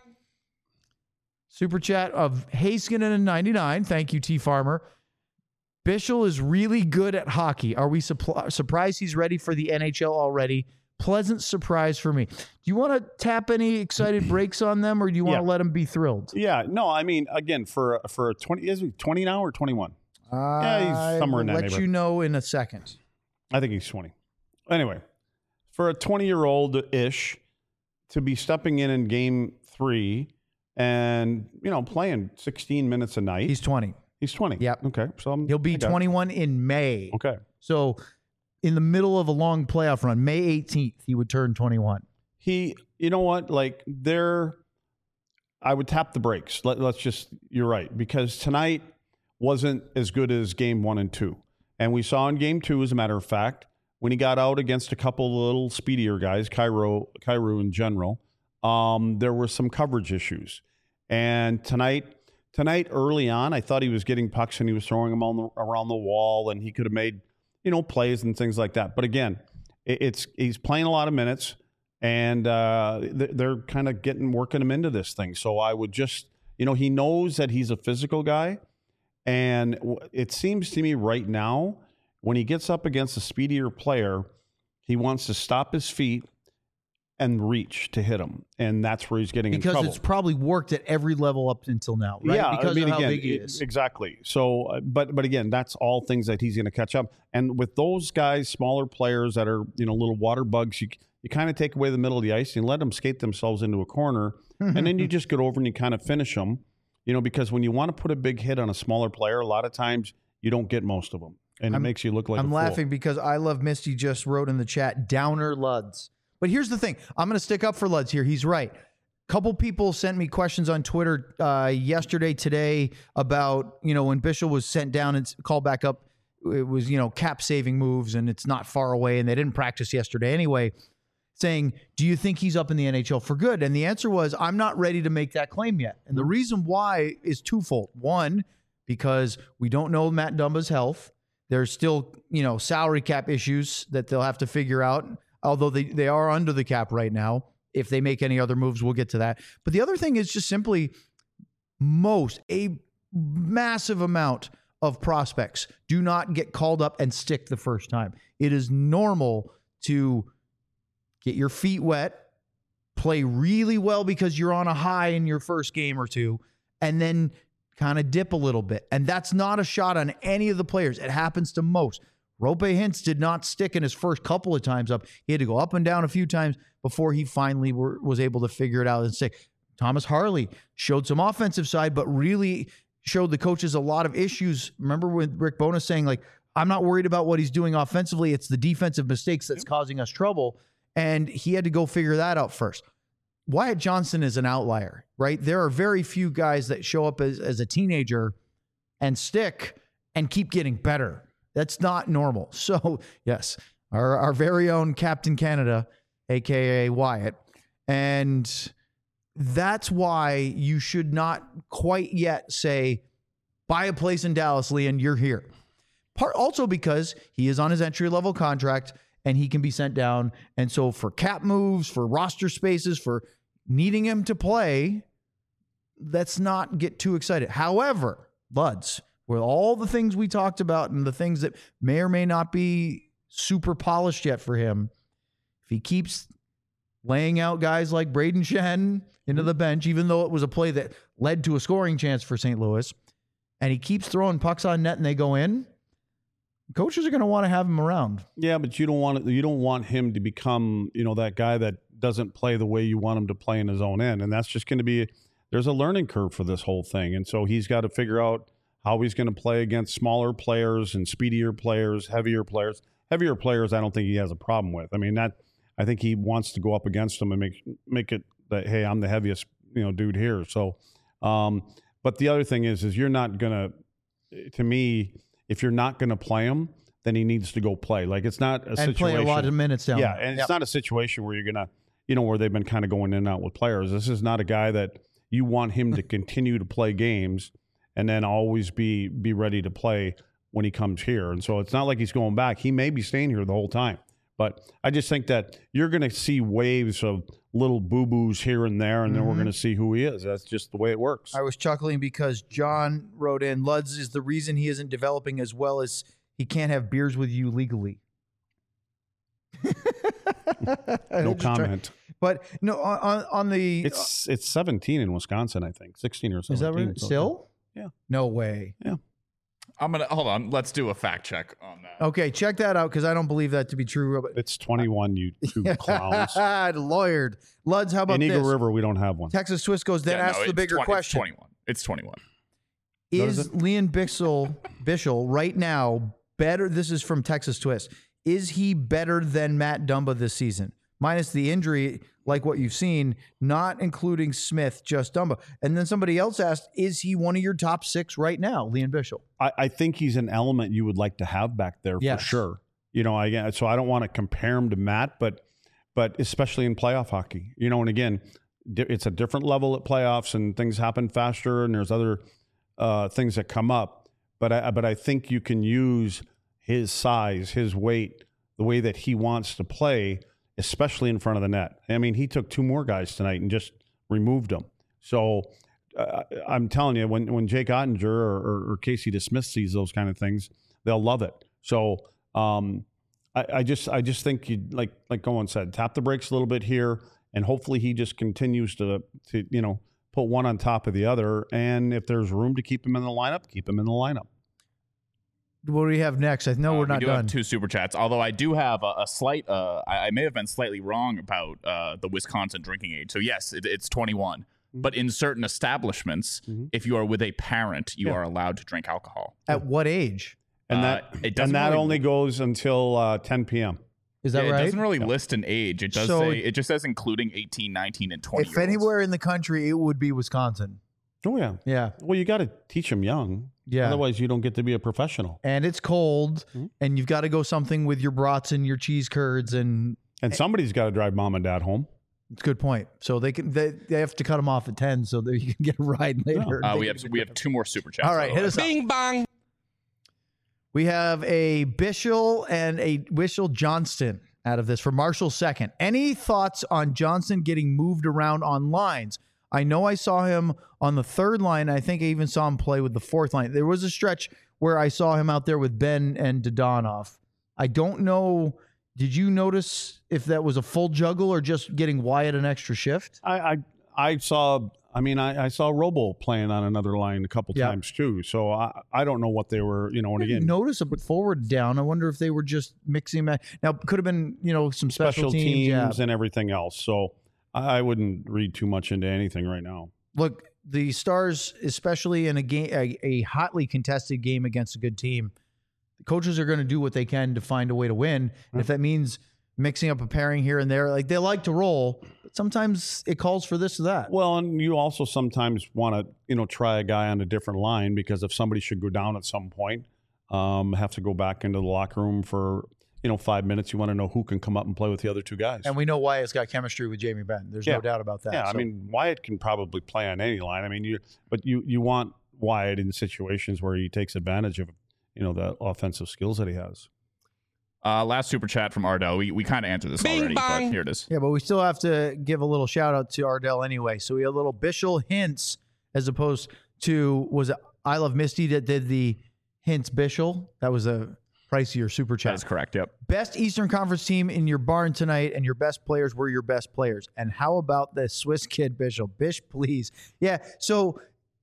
Super chat of Haskinen and ninety-nine. Thank you, T Farmer. Bishel is really good at hockey. Are we suppl- surprised he's ready for the N H L already? Pleasant surprise for me. Do you want to tap any excited breaks on them, or do you want to Yeah. let them be thrilled? Yeah. No, I mean, again, for for a twenty, is he twenty now or twenty-one? Yeah, he's somewhere in that I'll let neighborhood. you know in a second. I think he's twenty. anyway, for a twenty-year-old-ish to be stepping in in game three and, you know, playing sixteen minutes a night. He's twenty. He's twenty. Yep. Okay. So I'm, He'll be twenty-one in May. Okay. So in the middle of a long playoff run, May eighteenth, he would turn twenty-one. He, you know what, like there, I would tap the brakes. Let, let's just, you're right, because tonight wasn't as good as game one and two. And we saw in game two, as a matter of fact, when he got out against a couple of little speedier guys, Cairo, Cairo in general, um, there were some coverage issues. And tonight, tonight early on, I thought he was getting pucks and he was throwing them on the, around the wall, and he could have made, you know, plays and things like that. But again, it, it's he's playing a lot of minutes, and uh, they're kind of getting working him into this thing. So I would just, you know, he knows that he's a physical guy, and it seems to me right now, when he gets up against a speedier player, he wants to stop his feet and reach to hit him, and that's where he's getting because in trouble. Because it's probably worked at every level up until now, right? Yeah, because I mean, of how again, big he it- is. exactly. So, uh, but but again, that's all things that he's going to catch up. And with those guys, smaller players that are, you know, little water bugs, you you kind of take away the middle of the ice and let them skate themselves into a corner, and then you just get over and you kind of finish them. You know, because when you want to put a big hit on a smaller player, a lot of times you don't get most of them, and I'm- it makes you look like I'm a fool. laughing because I Love Misty just wrote in the chat, Downer Luds. But here's the thing. I'm going to stick up for Luds here. He's right. Couple people sent me questions on Twitter uh, yesterday, today about, you know, when Bishop was sent down and called back up, it was, you know, cap saving moves and it's not far away and they didn't practice yesterday anyway, saying, do you think he's up in the N H L for good? And the answer was, I'm not ready to make that claim yet. And the reason why is twofold. One, because we don't know Matt Dumba's health. There's still, you know, salary cap issues that they'll have to figure out, although they, they are under the cap right now. If they make any other moves, we'll get to that. But the other thing is just simply most, a massive amount of prospects do not get called up and stick the first time. It is normal to get your feet wet, play really well because you're on a high in your first game or two, and then kind of dip a little bit. And that's not a shot on any of the players. It happens to most. Rope Hintz did not stick in his first couple of times up. He had to go up and down a few times before he finally were, was able to figure it out and stick. Thomas Harley showed some offensive side, but really showed the coaches a lot of issues. Remember with Rick Bowness saying, like, I'm not worried about what he's doing offensively. It's the defensive mistakes that's causing us trouble. And he had to go figure that out first. Wyatt Johnston is an outlier, right? There are very few guys that show up as, as a teenager and stick and keep getting better. That's not normal. So, yes, our, our very own Captain Canada, a k a. Wyatt. And that's why you should not quite yet say, buy a place in Dallas, Leon, you're here. Part also because he is on his entry-level contract and he can be sent down. And so for cap moves, for roster spaces, for needing him to play, let's not get too excited. However, Luds, with all the things we talked about and the things that may or may not be super polished yet for him, if he keeps laying out guys like Braden Shen into the bench, even though it was a play that led to a scoring chance for Saint Louis, and he keeps throwing pucks on net and they go in, coaches are going to want to have him around. Yeah, but you don't want you don't want him to become, you know, that guy that doesn't play the way you want him to play in his own end, and that's just going to be there's a learning curve for this whole thing, and so he's got to figure out how he's going to play against smaller players and speedier players, heavier players. Heavier players, I don't think he has a problem with. I mean, that I think he wants to go up against them and make make it that, hey, I'm the heaviest, you know, dude here. So, um, but the other thing is, is you're not gonna, to me, if you're not gonna play him, then he needs to go play. Like it's not a And situation. play a lot of minutes down. Yeah, there. and Yep. it's not a situation where you're gonna, you know, where they've been kind of going in and out with players. This is not a guy that you want him to continue to play games and then always be be ready to play when he comes here. And so it's not like he's going back. He may be staying here the whole time. But I just think that you're going to see waves of little boo-boos here and there, and Mm-hmm. then we're going to see who he is. That's just the way it works. I was chuckling because John wrote in, Luds is the reason he isn't developing as well as he can't have beers with you legally. No Just try- comment. But no, on, on the... It's it's seventeen in Wisconsin, I think. sixteen or seventeen. is that right? So- Still? Yeah. No way. Yeah. I'm gonna hold on. Let's do a fact check on that. Okay, check that out because I don't believe that to be true. It's twenty-one, you two clowns. Lawyered. Luds, how about In Eagle this? River, we don't have one. Texas Twist goes, then Yeah, ask no, the it's bigger twenty question. It's twenty-one. It's twenty-one. What is Is it? Liam Bixel, Bishel right now better? This is from Texas Twist. Is he better than Matt Dumba this season? Minus the injury, like what you've seen, not including Smith, just Dumba. And then somebody else asked, is he one of your top six right now, Liam Bishel? I, I think he's an element you would like to have back there Yes. for sure. You know, I so I don't want to compare him to Matt, but but especially in playoff hockey, you know, and again, di- it's a different level at playoffs and things happen faster and there's other uh, things that come up. But I but I think you can use his size, his weight, the way that he wants to play, especially in front of the net. I mean, he took two more guys tonight and just removed them. So uh, I'm telling you, when when Jake Ottinger or, or, or Casey DeSmith sees those kind of things, they'll love it. So um, I, I just I just think you like like Owen said, tap the brakes a little bit here, and hopefully he just continues to to you know put one on top of the other. And if there's room to keep him in the lineup, keep him in the lineup. What do we have next? I know Uh, we're not we do done. have two super chats, although I do have a, a slight. Uh, I, I may have been slightly wrong about uh, the Wisconsin drinking age. So yes, it, it's twenty-one. Mm-hmm. But in certain establishments, mm-hmm. if you are with a parent, you yeah. are allowed to drink alcohol. At what age? And uh, that it and that really, only goes until uh, ten p.m. Is that yeah, right? It doesn't really yeah. list an age. It does so, say it just says including eighteen, nineteen, and twenty. If anywhere in the country, it would be Wisconsin. Oh yeah, yeah. Well, you got to teach them young. Yeah. Otherwise, you don't get to be a professional. And it's cold, mm-hmm. and you've got to go something with your brats and your cheese curds, and and somebody's got to drive mom and dad home. It's a good point. So they can they, they have to cut them off at ten, so that you can get a ride later. Uh, we have we have two more super chats. All right, hit us up. Bing bong. We have a Bishel and a Wishel Johnston out of this for Marshall second. Any thoughts on Johnston getting moved around on lines? I know I saw him on the third line. I think I even saw him play with the fourth line. There was a stretch where I saw him out there with Ben and Dodonov. I don't know. Did you notice if that was a full juggle or just getting Wyatt an extra shift? I I, I saw. I mean, I, I saw Robo playing on another line a couple yeah. times too. So I I don't know what they were. You know, and again, notice a forward down. I wonder if they were just mixing that. Now could have been you know some special, special teams, teams yeah. and everything else. So I wouldn't read too much into anything right now. Look, the Stars, especially in a game, a, a hotly contested game against a good team, the coaches are going to do what they can to find a way to win. And if that means mixing up a pairing here and there, like they like to roll, but sometimes it calls for this or that. Well, and you also sometimes want to, you know, try a guy on a different line because if somebody should go down at some point, um, have to go back into the locker room for, you know, five minutes. You want to know who can come up and play with the other two guys. And we know Wyatt's got chemistry with Jamie Benn. There's yeah. no doubt about that. Yeah, so. I mean, Wyatt can probably play on any line. I mean, you, but you you want Wyatt in situations where he takes advantage of, you know, the offensive skills that he has. Uh, last super chat from Ardell. We we kind of answered this Bing already, bong. but here it is. Yeah, but we still have to give a little shout out to Ardell anyway. So we had a little Bishel hints as opposed to, was it I Love Misty that did the hints Bishel? That was a pricier super chat. That is correct, yep. Best Eastern Conference team in your barn tonight, and your best players were your best players. And how about the Swiss kid Bishel? Bish, please. Yeah, so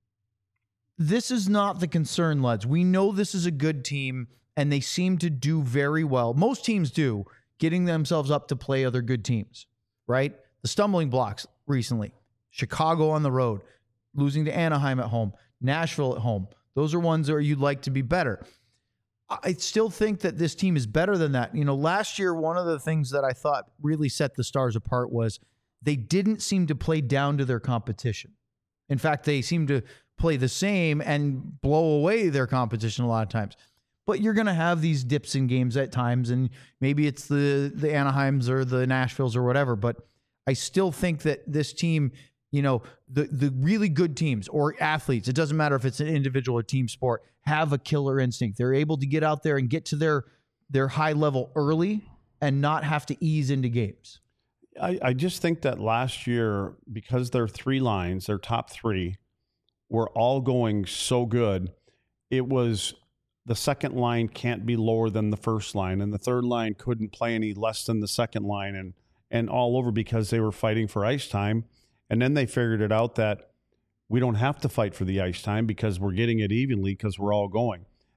this is not the concern, lads. We know this is a good team, and they seem to do very well. Most teams do, getting themselves up to play other good teams, right? The stumbling blocks recently. Chicago on the road, losing to Anaheim at home, Nashville at home. Those are ones where you'd like to be better. I still think that this team is better than that. You know, last year, one of the things that I thought really set the Stars apart was they didn't seem to play down to their competition. In fact, they seemed to play the same and blow away their competition a lot of times. But you're going to have these dips in games at times, and maybe it's the the Anaheims or the Nashvilles or whatever. But I still think that this team, you know, the the really good teams or athletes, it doesn't matter if it's an individual or team sport, have a killer instinct. They're able to get out there and get to their their high level early and not have to ease into games. I, I just think that last year, because their three lines, their top three, were all going so good, it was the second line can't be lower than the first line, and the third line couldn't play any less than the second line, and and all over because they were fighting for ice time. And then they figured it out that we don't have to fight for the ice time because we're getting it evenly because we're all going.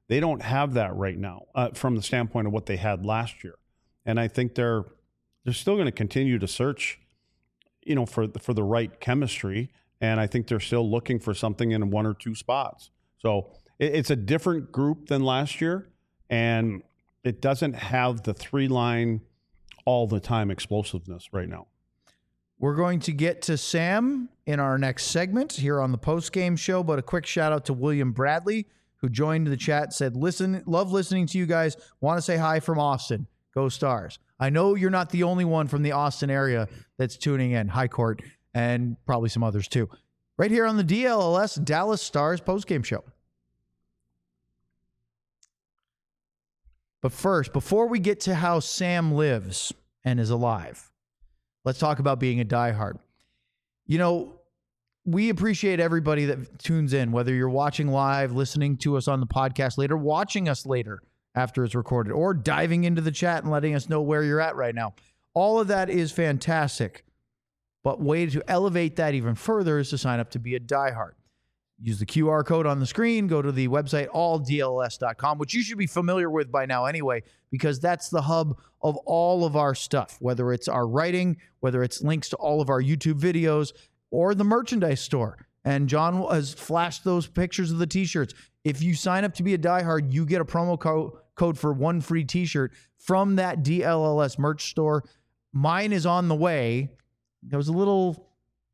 They don't have that right now uh, from the standpoint of what they had last year. And I think they're they're still going to continue to search, you know, for for the right chemistry. And I think they're still looking for something in one or two spots. So it, it's a different group than last year, and it doesn't have the three line all the time explosiveness right now. We're going to get to Sam in our next segment here on the post-game show, but a quick shout out to William Bradley, who joined the chat, said, listen, love listening to you guys. Want to say hi from Austin. Go Stars. I know you're not the only one from the Austin area that's tuning in. Hi, Court, and probably some others too. Right here on the D L L S Dallas Stars post-game show. But first, before we get to how Sam lives and is alive, let's talk about being a diehard. You know, we appreciate everybody that tunes in, whether you're watching live, listening to us on the podcast later, watching us later after it's recorded, or diving into the chat and letting us know where you're at right now. All of that is fantastic. But way to elevate that even further is to sign up to be a diehard. Use the Q R code on the screen, go to the website all D L S dot com, which you should be familiar with by now anyway, because that's the hub of all of our stuff, whether it's our writing, whether it's links to all of our YouTube videos, or the merchandise store. And John has flashed those pictures of the t-shirts. If you sign up to be a diehard, you get a promo co- code for one free t-shirt from that D L L S merch store. Mine is on the way. I was a little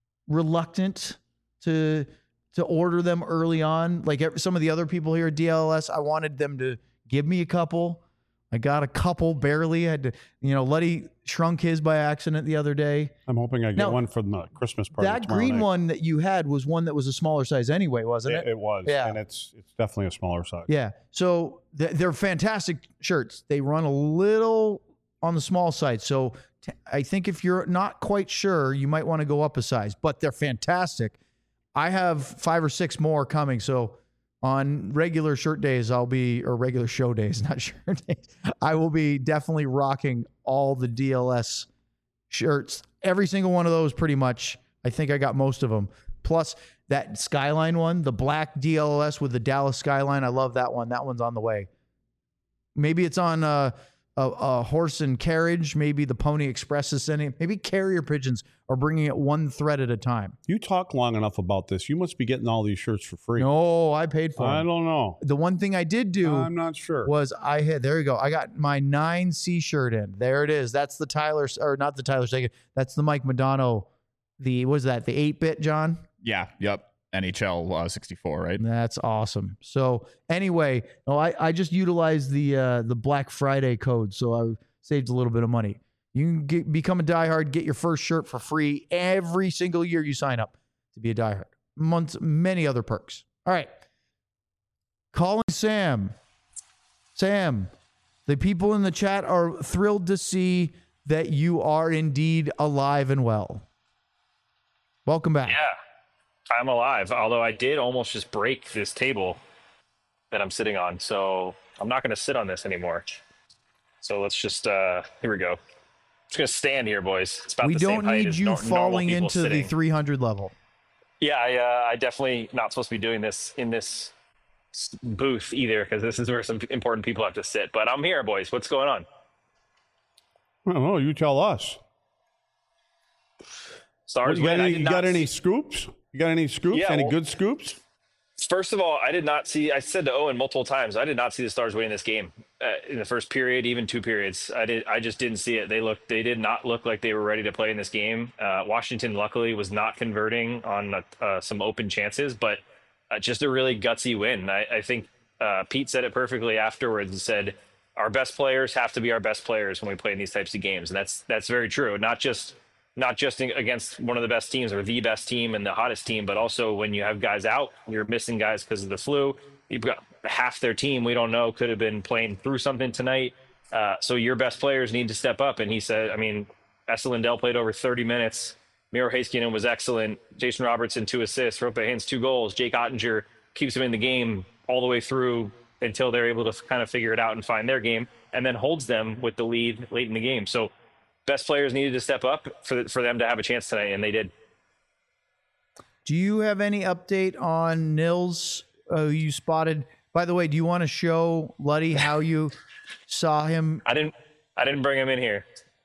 reluctant to to order them early on. Like some of the other people here at D L L S, I wanted them to give me a couple. I got a couple, barely. I had to, you know, Letty shrunk his by accident the other day. I'm hoping I get Now, one for the Christmas party. That tomorrow green night. one that you had was one that was a smaller size anyway, wasn't it? It, it was, Yeah. and it's it's definitely a smaller size. Yeah. So th- they're fantastic shirts. They run a little on the small side. So t- I think if you're not quite sure, you might want to go up a size, but they're fantastic. I have five or six more coming. So on regular shirt days, I'll be, or regular show days, not shirt days, I will be definitely rocking all the D L S shirts. Every single one of those pretty much. I think I got most of them. Plus that Skyline one, the black D L L S with the Dallas Skyline. I love that one. That one's on the way. Maybe it's on uh, a, a horse and carriage. Maybe the Pony Express is sending it. Maybe carrier pigeons are bringing it one thread at a time. You talk long enough about this. You must be getting all these shirts for free. No, I paid for I them. don't know. The one thing I did do I'm not sure. was I had, there you go. I got my nine C shirt in. There it is. That's the Tyler, or not the Tyler Seguin. That's the Mike Madonna. The, what is that? The eight bit, John? Yeah. Yep. N H L uh, sixty-four, right? That's awesome. So anyway, no, I, I just utilized the uh, the Black Friday code, so I saved a little bit of money. You can get, become a diehard, get your first shirt for free every single year you sign up to be a diehard. Months, many other perks. All right. Calling Sam. Sam, the people in the chat are thrilled to see that you are indeed alive and well. Welcome back. Yeah, I'm alive. Although I did almost just break this table that I'm sitting on. So I'm not going to sit on this anymore. So let's just, uh, here we go. I'm just going to stand here, boys. It's about We the don't same height need as you nor- falling normal people into sitting. the three hundred level. Yeah, I, uh, I definitely not supposed to be doing this in this s- booth either, because this is where some important people have to sit. But I'm here, boys. What's going on? I don't know. You tell us. Stars you got win. I any, did you not got s- any scoops? You got any scoops? Yeah, any well- good scoops? First of all, I did not see. I said to Owen multiple times, I did not see the Stars winning this game uh, in the first period, even two periods. I did. I just didn't see it. They looked. They did not look like they were ready to play in this game. Uh, Washington, luckily, was not converting on uh, uh, some open chances, but uh, just a really gutsy win. I, I think uh, Pete said it perfectly afterwards. And said, "Our best players have to be our best players when we play in these types of games," and that's that's very true. Not just. Not just against one of the best teams or the best team and the hottest team, but also when you have guys out, you're missing guys because of the flu. You've got half their team we don't know could have been playing through something tonight. Uh, so your best players need to step up. And he said, I mean, Esa Lindell played over thirty minutes. Miro Heiskanen was excellent. Jason Robertson, two assists. Roope Hintz, two goals. Jake Ottinger keeps him in the game all the way through until they're able to kind of figure it out and find their game, and then holds them with the lead late in the game. So best players needed to step up for for them to have a chance tonight, and they did. Do you have any update on Nils, uh, who you spotted By the way, do you want to show Luddy how you saw him? I didn't. I didn't bring him in here.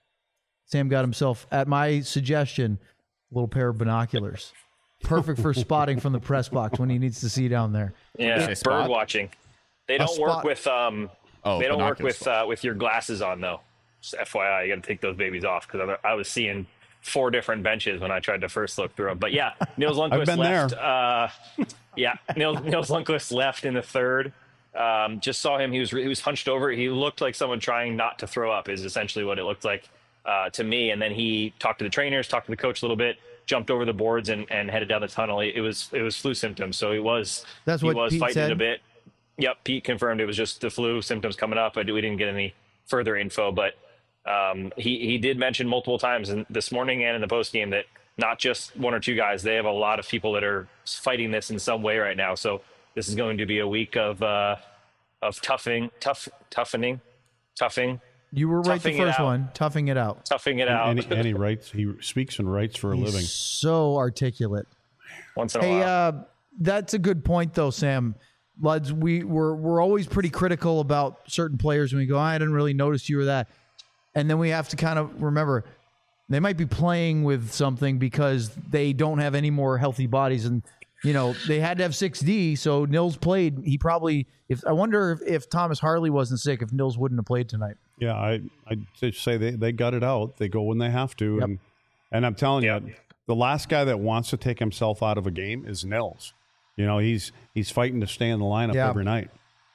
Sam got himself, at my suggestion, a little pair of binoculars. Perfect for spotting from the press box when he needs to see down there. Yeah, Say bird spot? watching. They don't spot- work with um. Oh, they don't work binoculars. with uh, with your glasses on though. Just F Y I, you got to take those babies off because I, I was seeing four different benches when I tried to first look through them. But yeah, Niels Lundqvist been left. Uh, yeah, Niels, Niels Lundqvist left in the third. Um, just saw him. He was he was hunched over. He looked like someone trying not to throw up. Is essentially what it looked like uh, to me. And then he talked to the trainers, talked to the coach a little bit, jumped over the boards, and, and headed down the tunnel. It was it was flu symptoms. So he was That's he what was Pete fighting said? it a bit. Yep, Pete confirmed it was just the flu symptoms coming up. But we didn't get any further info. But um, he he did mention multiple times in this morning and in the post game that not just one or two guys. They have a lot of people that are fighting this in some way right now. So this is going to be a week of uh, of toughing, tough, toughening, toughing, You were right the Toughing it first out. one, toughing it out. toughing it out And, he, and he writes, he speaks and writes for a He's living. so articulate. once in a Hey, while. uh, that's a good point, though, Sam. Luds, we, we're, we're always pretty critical about certain players when we go, I didn't really notice you were that. And then we have to kind of remember they might be playing with something because they don't have any more healthy bodies. And, you know, they had to have six D, so Nils played. He probably, if I wonder if, if Thomas Harley wasn't sick, if Nils wouldn't have played tonight. Yeah, I I just say they, they gut it out. They go when they have to. Yep. And and I'm telling Yep. you, the last guy that wants to take himself out of a game is Nils. You know, he's he's fighting to stay in the lineup Yeah. every night.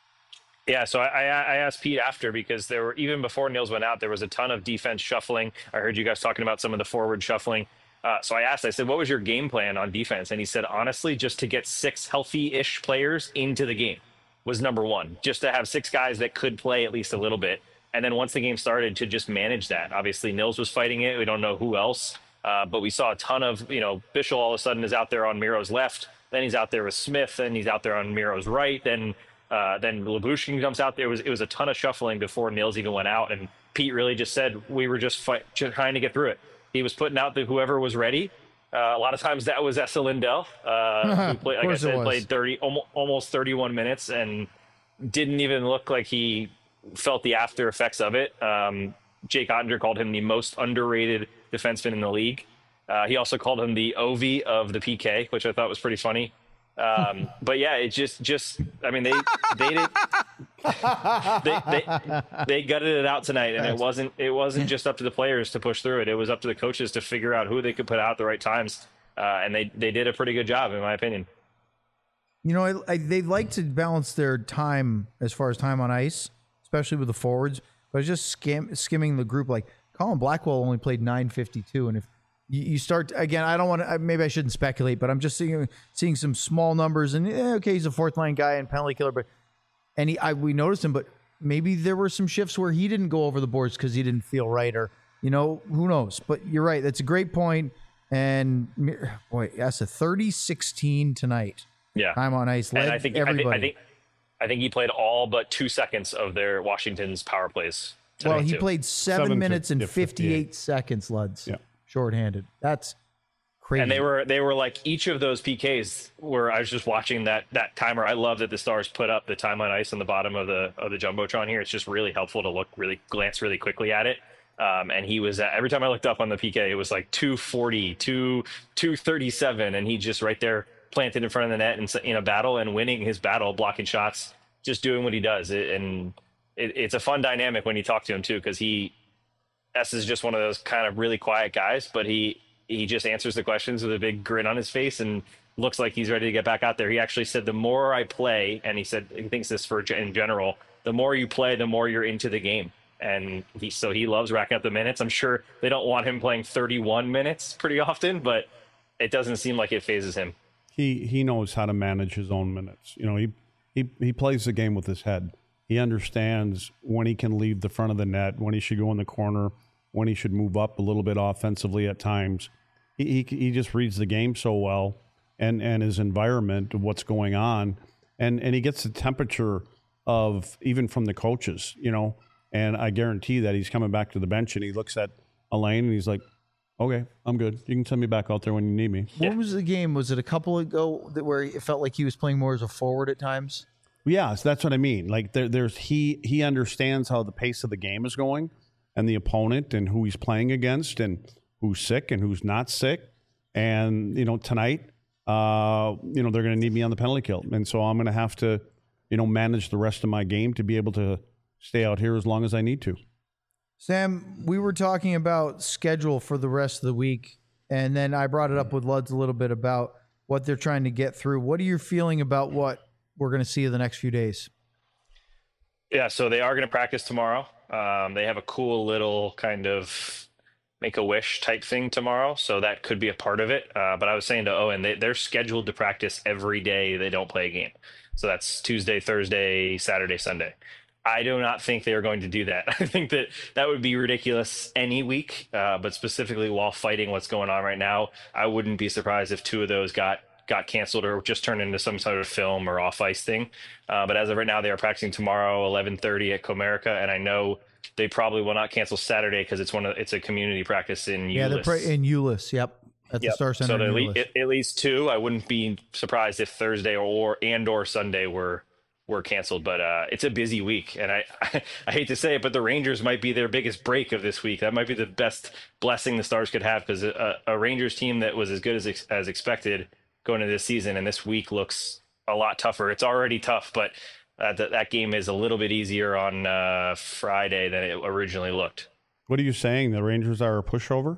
Yeah, so I, I I asked Pete after because there were even before Niels went out, there was a ton of defense shuffling. I heard you guys talking about some of the forward shuffling. Uh, so I asked, I said, what was your game plan on defense? And he said, honestly, just to get six healthy-ish players into the game was number one, just to have six guys that could play at least a little bit. And then once the game started, to just manage that. Obviously, Nils was fighting it. We don't know who else, uh, but we saw a ton of, you know, Bischel all of a sudden is out there on Miro's left. Then he's out there with Smith. Then he's out there on Miro's right. Then uh, then Lyubushkin jumps out there. It was, it was a ton of shuffling before Nils even went out. And Pete really just said, we were just, fight, just trying to get through it. He was putting out the whoever was ready. Uh, a lot of times that was Esa Lindell, uh, who played, like I course it said, was. played thirty, almost, almost thirty-one minutes and didn't even look like he felt the after effects of it. Um, Jake Ottinger called him the most underrated defenseman in the league. Uh, he also called him the Ovi of the P K, which I thought was pretty funny. Um, but yeah, it just, just, I mean, they, they did, they, they, they gutted it out tonight, and it wasn't, it wasn't just up to the players to push through it. It was up to the coaches to figure out who they could put out at the right times. Uh, and they, they did a pretty good job, in my opinion. You know, I, I, they like to balance their time as far as time on ice, especially with the forwards. But I was just skim, skimming the group. Like Colin Blackwell only played nine fifty-two, and if you, you start again, I don't want to. Maybe I shouldn't speculate, but I'm just seeing seeing some small numbers. And eh, okay, he's a fourth line guy and penalty killer, but and he, I, we noticed him. But maybe there were some shifts where he didn't go over the boards because he didn't feel right, or you know, who knows. But you're right. That's a great point. And boy, that's a thirty sixteen tonight. Yeah. Time on ice. Led And I think, I everybody. think, I think, I think he played all but two seconds of their Washington's power plays. well, tonight, he too. played seven, Seven minutes fif- and yeah, fifty-eight fifty-eight. seconds, Luds. Yeah. Shorthanded. That's crazy. And they were they were like each of those P Ks where I was just watching that that timer. I love that the Stars put up the time on ice on the bottom of the of the jumbotron here. It's just really helpful to look really glance really quickly at it. Um, and he was at, every time I looked up on the P K, it was like two forty, two thirty-seven, and he just right there planted in front of the net and in a battle and winning his battle, blocking shots, just doing what he does. It, and it, it's a fun dynamic when you talk to him too, because he S is just one of those kind of really quiet guys, but he he just answers the questions with a big grin on his face and looks like he's ready to get back out there. He actually said, the more I play, and he said he thinks this for in general, the more you play, the more you're into the game. And he so he loves racking up the minutes. I'm sure they don't want him playing thirty-one minutes pretty often, but it doesn't seem like it phases him. He he knows how to manage his own minutes. You know, he he he plays the game with his head. He understands when he can leave the front of the net, when he should go in the corner, when he should move up a little bit offensively at times. He he, he just reads the game so well, and and his environment, what's going on, and and he gets the temperature of even from the coaches. You know. And I guarantee that he's coming back to the bench and he looks at Elaine and he's like, okay, I'm good. You can send me back out there when you need me. What was the game? Was it a couple ago that where it felt like he was playing more as a forward at times? Yes, that's what I mean. Like there, there's he he understands how the pace of the game is going, and the opponent, and who he's playing against, and who's sick and who's not sick. And you know, tonight, uh, you know, they're going to need me on the penalty kill, and so I'm going to have to, you know, manage the rest of my game to be able to stay out here as long as I need to. Sam, we were talking about schedule for the rest of the week, and then I brought it up with Luds a little bit about what they're trying to get through. What are you feeling about what we're going to see in the next few days? Yeah, so they are going to practice tomorrow. Um, they have a cool little kind of make-a-wish type thing tomorrow, so that could be a part of it. Uh, but I was saying to Owen, they, they're scheduled to practice every day they don't play a game. So that's Tuesday, Thursday, Saturday, Sunday. I do not think they are going to do that. I think that that would be ridiculous any week, uh, but specifically while fighting what's going on right now, I wouldn't be surprised if two of those got got canceled or just turned into some sort of film or off ice thing. Uh, but as of right now, they are practicing tomorrow, eleven thirty at Comerica, and I know they probably will not cancel Saturday because it's one of it's a community practice in Yeah, Euless. they're pra- in Euless. Yep, at the Yep. Star Center. So in at, le- Euless. at, at least two. I wouldn't be surprised if Thursday or and or Sunday were were canceled. But uh, it's a busy week, and I, I I hate to say it, but the Rangers might be their biggest break of this week. That might be the best blessing the Stars could have, because a, a Rangers team that was as good as ex- as expected going into this season, and this week looks a lot tougher. It's already tough, but uh, th- that game is a little bit easier on uh, Friday than it originally looked. What are you saying? The Rangers are a pushover?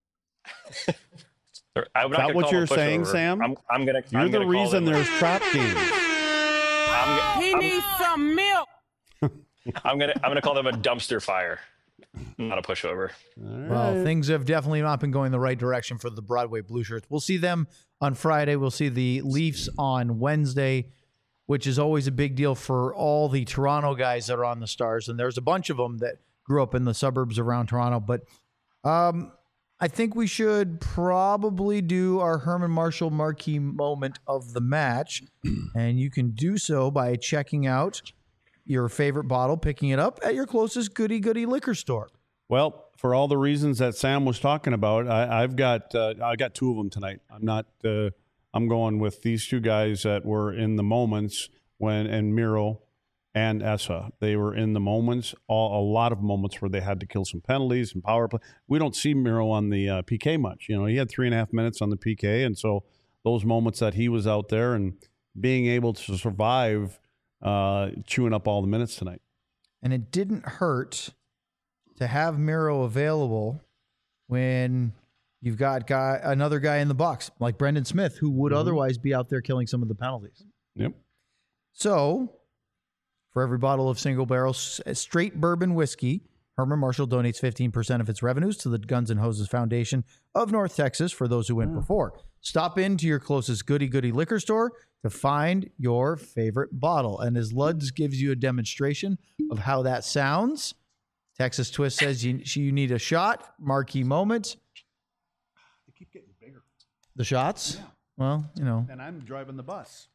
I'm Is that what you're saying, Sam? I'm, I'm gonna. You're I'm the gonna call reason them- there's trap games. I'm, He I'm, needs some milk. I'm gonna. I'm gonna call them a dumpster fire, not a pushover. Well, things have definitely not been going the right direction for the Broadway Blue Shirts. We'll see them on Friday. We'll see the Leafs on Wednesday, which is always a big deal for all the Toronto guys that are on the Stars. And there's a bunch of them that grew up in the suburbs around Toronto. But um, I think we should probably do our Herman Marshall marquee moment of the match. And you can do so by checking out your favorite bottle, picking it up at your closest goody goody liquor store. Well, for all the reasons that Sam was talking about, I, I've got uh, I got two of them tonight. I'm not. Uh, I'm going with these two guys that were in the moments when and Miro and Essa. They were in the moments, all, a lot of moments where they had to kill some penalties and power play. We don't see Miro on the uh, P K much. You know, he had three and a half minutes on the P K, and so those moments that he was out there and being able to survive, uh, chewing up all the minutes tonight. And it didn't hurt to have Miro available when you've got guy another guy in the box like Brendan Smith, who would mm-hmm. otherwise be out there killing some of the penalties. Yep. So, for every bottle of single barrel straight bourbon whiskey, Herman Marshall donates fifteen percent of its revenues to the Guns N' Hoses Foundation of North Texas for those who went oh. before. Stop into your closest goody goody liquor store to find your favorite bottle. And as Luds gives you a demonstration of how that sounds, Texas Twist says you, you need a shot, marquee moment. They keep getting bigger. The shots? Yeah. Well, you know. And I'm driving the bus.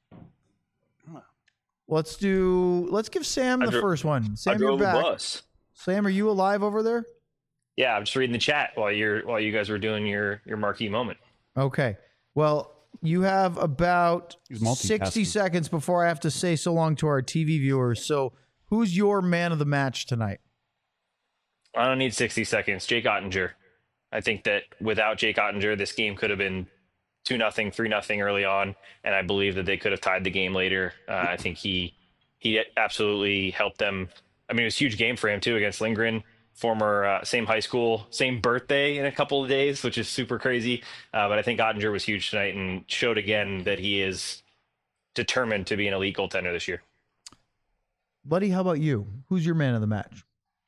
Let's do, let's give Sam the dro- first one. Sam, I drove you're back. the bus. Sam, are you alive over there? Yeah, I'm just reading the chat while you're while you guys were doing your your marquee moment. Okay. Well, you have about He's multitasking. sixty seconds before I have to say so long to our T V viewers. So, who's your man of the match tonight? I don't need sixty seconds. Jake Ottinger. I think that without Jake Ottinger, this game could have been two nothing, three nothing early on, and I believe that they could have tied the game later. Uh, I think he he absolutely helped them. I mean, it was a huge game for him too against Lindgren. Former uh, same high school, same birthday in a couple of days, which is super crazy. Uh, but I think Ottinger was huge tonight and showed again that he is determined to be an elite goaltender this year. Buddy, how about you? Who's your man of the match?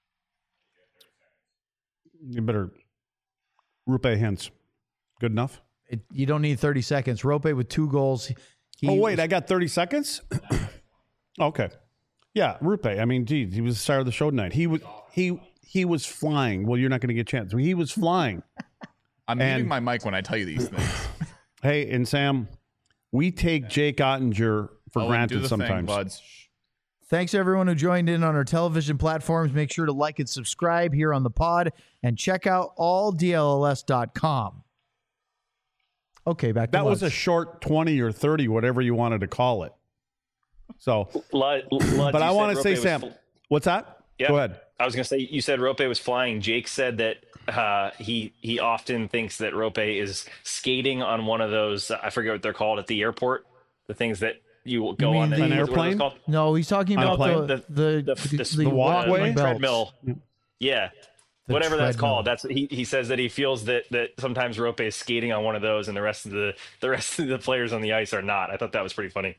You better. Rupe Hintz. Good enough? It, you don't need thirty seconds. Rope with two goals. He oh, wait, was, I got thirty seconds? Okay. Yeah, Rupe. I mean, geez, he was the star of the show tonight. He was he he was flying. Well, you're not going to get a chance. He was flying. I'm And- muting my mic when I tell you these things. Hey, and Sam, we take Jake Ottinger for Owen, do granted the sometimes. thing, buds. Thanks, everyone who joined in on our television platforms. Make sure to like and subscribe here on the pod and check out all D L L S dot com. Okay, back to That was a Lutz. short twenty or thirty, whatever you wanted to call it. So, Lud, Lud, but I want to Rope say, was Sam, fl- what's that? yeah, Go ahead. I was going to say, you said Rope was flying. Jake said that uh, he he often thinks that Rope is skating on one of those, I forget what they're called at the airport, the things that you go mean on. the- the, An what are those airplane? called? No, he's talking On a about plane? the the, The- the, the- the walkway? walking belts. treadmill. Yeah. The Whatever that's treadmill. called. That's he, he says that he feels that that sometimes Rope is skating on one of those and the rest of the the rest of the players on the ice are not. I thought that was pretty funny.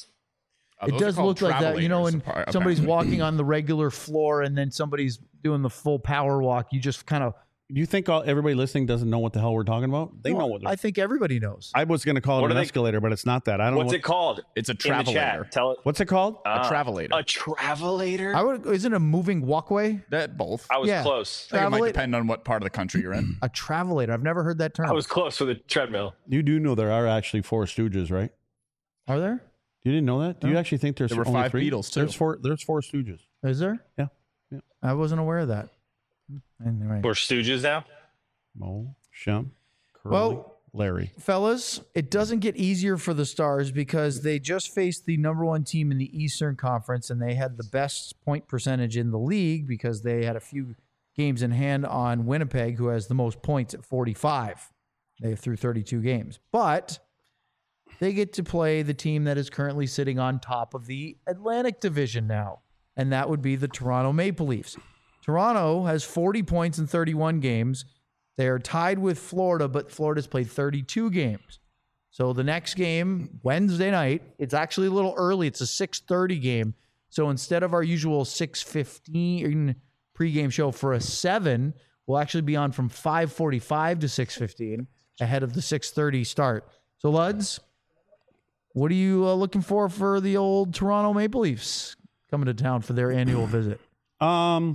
Uh, It those are does called look like that, you know, when travelators, somebody's apparently. walking on the regular floor and then somebody's doing the full power walk. You just kind of. Do you think all, everybody listening doesn't know what the hell we're talking about? They know what. I think everybody knows. I was going to call it What an are they- escalator, but it's not that. I don't. What's know it called? It's a In the chat. travelator. Tell it. What's it called? A Ah, travelator. A travelator? I would. Isn't it a moving walkway? That both. I was Yeah. close. I think it might Travelator? depend on what part of the country you're in. A travelator. I've never heard that term. I was close with a treadmill. You do know there are actually four Stooges, right? Are there? You didn't know that? Do you No. actually think there's There were only five three? Beatles, too. There's four. There's four Stooges. Is there? Yeah. Yeah. I wasn't aware of that. Anyway. We're stooges now. Mo, Shem, Curly, Well- Larry. Fellas, it doesn't get easier for the Stars because they just faced the number one team in the Eastern Conference and they had the best point percentage in the league because they had a few games in hand on Winnipeg, who has the most points at forty-five. They threw thirty-two games. But they get to play the team that is currently sitting on top of the Atlantic Division now, and that would be the Toronto Maple Leafs. Toronto has forty points in thirty-one games. They are tied with Florida, but Florida's played thirty-two games. So the next game, Wednesday night, it's actually a little early. It's a six thirty game. So instead of our usual six fifteen pregame show for a seven, we'll actually be on from five forty-five to six fifteen ahead of the six thirty start. So, Luds, what are you uh, looking for for the old Toronto Maple Leafs coming to town for their annual visit? Um,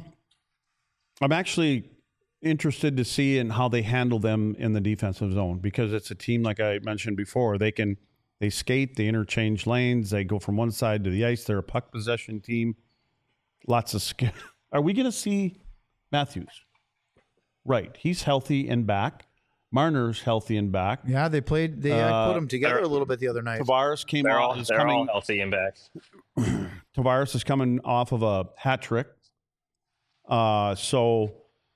I'm actually interested to see in how they handle them in the defensive zone because it's a team, like I mentioned before, they can they skate, they interchange lanes, they go from one side to the ice. They're a puck possession team. Lots of skill. Are we going to see Matthews? Right, he's healthy and back. Marner's healthy and back. Yeah, they played. They Uh, put them together they're- a little bit the other night. Tavares came They're off. all Is they're all coming. healthy and back. Tavares is coming off of a hat trick. Uh, so,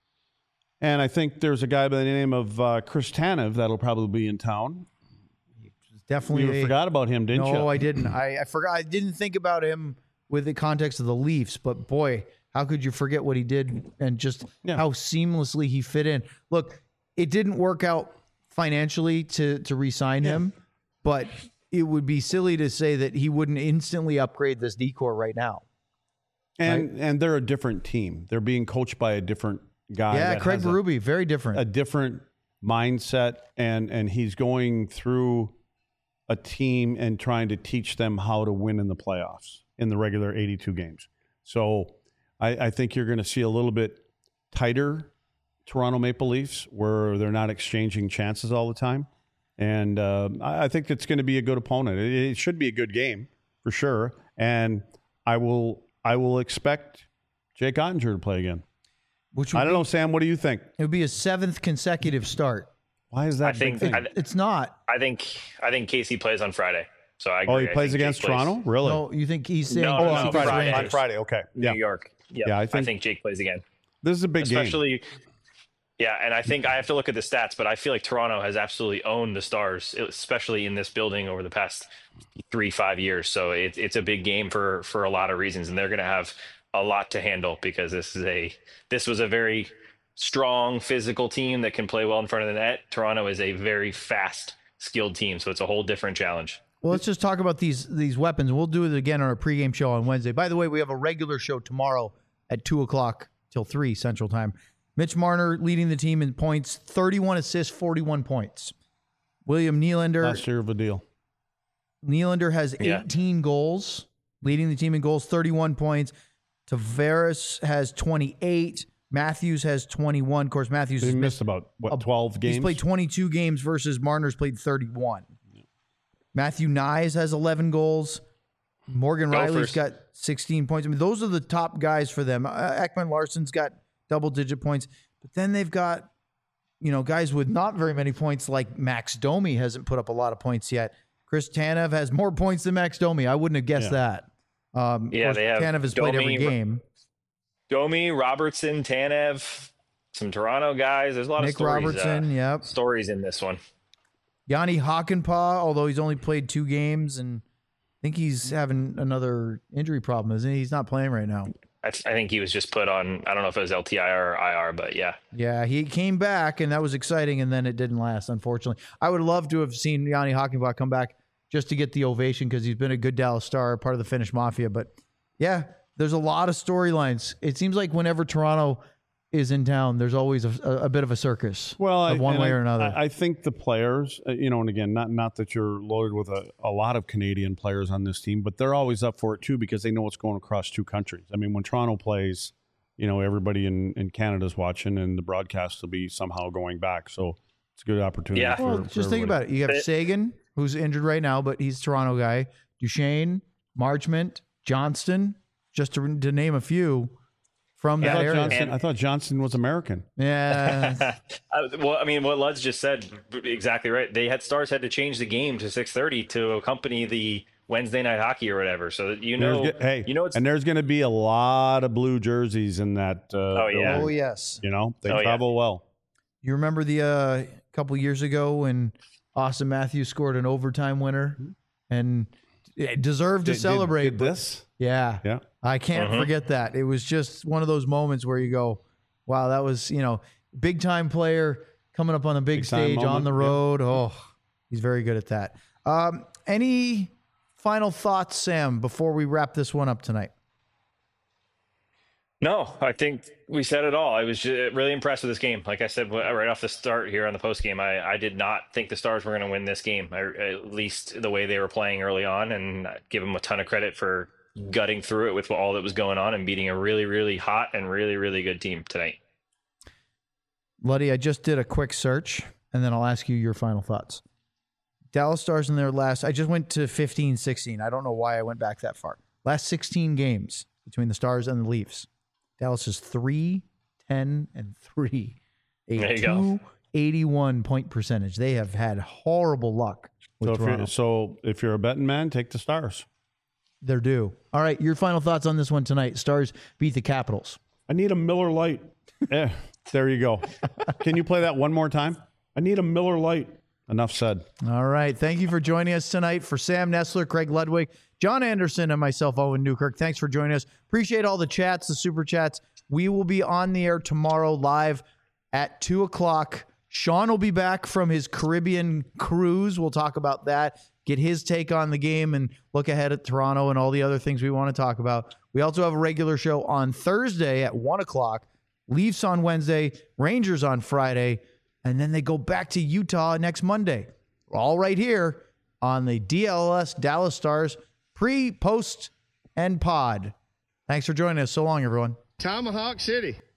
and I think there's a guy by the name of uh, Chris Tanev that'll probably be in town. Definitely You a- forgot about him, didn't you? No, I didn't. I, I forgot. I didn't think about him with the context of the Leafs, but boy, how could you forget what he did and just Yeah. how seamlessly he fit in? Look, it didn't work out financially to to re-sign him, but it would be silly to say that he wouldn't instantly upgrade this decor right now. And and they're a different team. They're being coached by a different guy. yeah, that Craig has a- Berube, very different. a different mindset, and and he's going through a team and trying to teach them how to win in the playoffs in the regular eighty-two games. So I, I think you're going to see a little bit tighter Toronto Maple Leafs where they're not exchanging chances all the time. And uh, I I think it's going to be a good opponent. It, it should be a good game for sure. And I will I will expect Jake Ottinger to play again. which would I don't be, know, Sam. What do you think? It would be a seventh consecutive start. Why is that I a big think thing? I, It's not. I think I think Casey plays on Friday. So I agree. oh, he I plays think against Jake plays Toronto? Really? No, you think he's saying No, Oh, no, on no, Friday. Friday. On Friday. Okay. New Yeah. York. Yep. Yeah, I I think- think, Jake plays again. This is a big game. Especially yeah, and I think I have to look at the stats, but I feel like Toronto has absolutely owned the Stars, especially in this building over the past three, five years. So it, it's a big game for for a lot of reasons, and they're going to have a lot to handle because this is a this was a very strong physical team that can play well in front of the net. Toronto is a very fast, skilled team, so it's a whole different challenge. Well, let's just talk about these these weapons. We'll do it again on our pregame show on Wednesday. By the way, we have a regular show tomorrow at two o'clock till three Central Time. Mitch Marner leading the team in points, thirty-one assists, forty-one points. William Nylander, Last year of a deal. Nylander has Yeah. eighteen goals, leading the team in goals, thirty-one points. Tavares has twenty-eight. Matthews has twenty-one. Of course, Matthews He has missed about, what, twelve games? He's played twenty-two games versus Marner's played thirty-one. Matthew Nyes has eleven goals. Morgan Go Riley's first. got sixteen points. I mean, those are the top guys for them. Uh, Ekman Larsson's got double-digit points. But then they've got, you know, guys with not very many points like Max Domi hasn't put up a lot of points yet. Chris Tanev has more points than Max Domi. I wouldn't have guessed Yeah. that. Um, Yeah, of course, they have Tanev has played every Domi, game. Domi, Robertson, Tanev, some Toronto guys. There's a lot Nick of stories, Robertson, uh, yep. stories in this one. Yanni Hakanpää, although he's only played two games, and I think he's having another injury problem, isn't he? He's not playing right now. I, th- I think he was just put on, I don't know if it was L T I R or I R, but yeah. Yeah, he came back, and that was exciting, and then it didn't last, unfortunately. I would love to have seen Yanni Hakanpää come back just to get the ovation because he's been a good Dallas Star, part of the Finnish Mafia. But, yeah, there's a lot of storylines. It seems like whenever Toronto is in town, there's always a, a bit of a circus Well, of I- one and way I- or another. I, I think the players, uh, you know, and again, not not that you're loaded with a, a lot of Canadian players on this team, but they're always up for it too because they know what's going across two countries. I mean, when Toronto plays, you know, everybody in, in Canada's watching, and the broadcast will be somehow going back. So it's a good opportunity. Yeah. For, well, for just think everybody. about it. You have It- Sagan, who's injured right now, but he's a Toronto guy. Duchesne, Marchment, Johnston, just to, to name a few from I that thought, area. Johnson, I thought Johnson was American. Yeah. Uh, well, I mean, what Luds just said, exactly right. They had Stars had to change the game to six thirty to accompany the Wednesday night hockey or whatever. So that you know, There's ge- hey, you know, it's and there's going to be a lot of blue jerseys in that. Uh, Oh, yeah. building. Oh, yes. You know, they Oh, yeah. travel well. You remember the uh, couple years ago when Austin Matthews scored an overtime winner and it deserved to Did- did- celebrate. did but- this? Yeah. Yeah. I can't Mhm. forget that. It was just one of those moments where you go, wow, that was, you know, big time player coming up on the big, Big time stage on moment, the yeah. road. Oh, he's very good at that. Um, any final thoughts, Sam, before we wrap this one up tonight? No, I think we said it all. I was ju- really impressed with this game. Like I said right off the start here on the post game, I, I did not think the Stars were going to win this game, I, at least the way they were playing early on, and I give them a ton of credit for gutting through it with all that was going on and beating a really, really hot and really, really good team tonight. Luddy, I just did a quick search, and then I'll ask you your final thoughts. Dallas Stars in their last, I just went to fifteen sixteen. I don't know why I went back that far. Last sixteen games between the Stars and the Leafs. Dallas is three, ten, and three. A There you go. two eighty-one point percentage. They have had horrible luck with So if, Toronto. you're, so if you're a betting man, take the Stars. They're due. All right, your final thoughts on this one tonight. Stars beat the Capitals. I need a Miller Lite. eh, there you go. Can you play that one more time? I need a Miller Lite. Enough said. All right. Thank you for joining us tonight. For Sam Nestler, Craig Ludwig, John Anderson, and myself, Owen Newkirk, thanks for joining us. Appreciate all the chats, the super chats. We will be on the air tomorrow live at two o'clock. Sean will be back from his Caribbean cruise. We'll talk about that, get his take on the game, and look ahead at Toronto and all the other things we want to talk about. We also have a regular show on Thursday at one o'clock, Leafs on Wednesday, Rangers on Friday, and then they go back to Utah next Monday. All right here on the D L S Dallas Stars pre, post, and pod. Thanks for joining us. So long, everyone. Tomahawk City.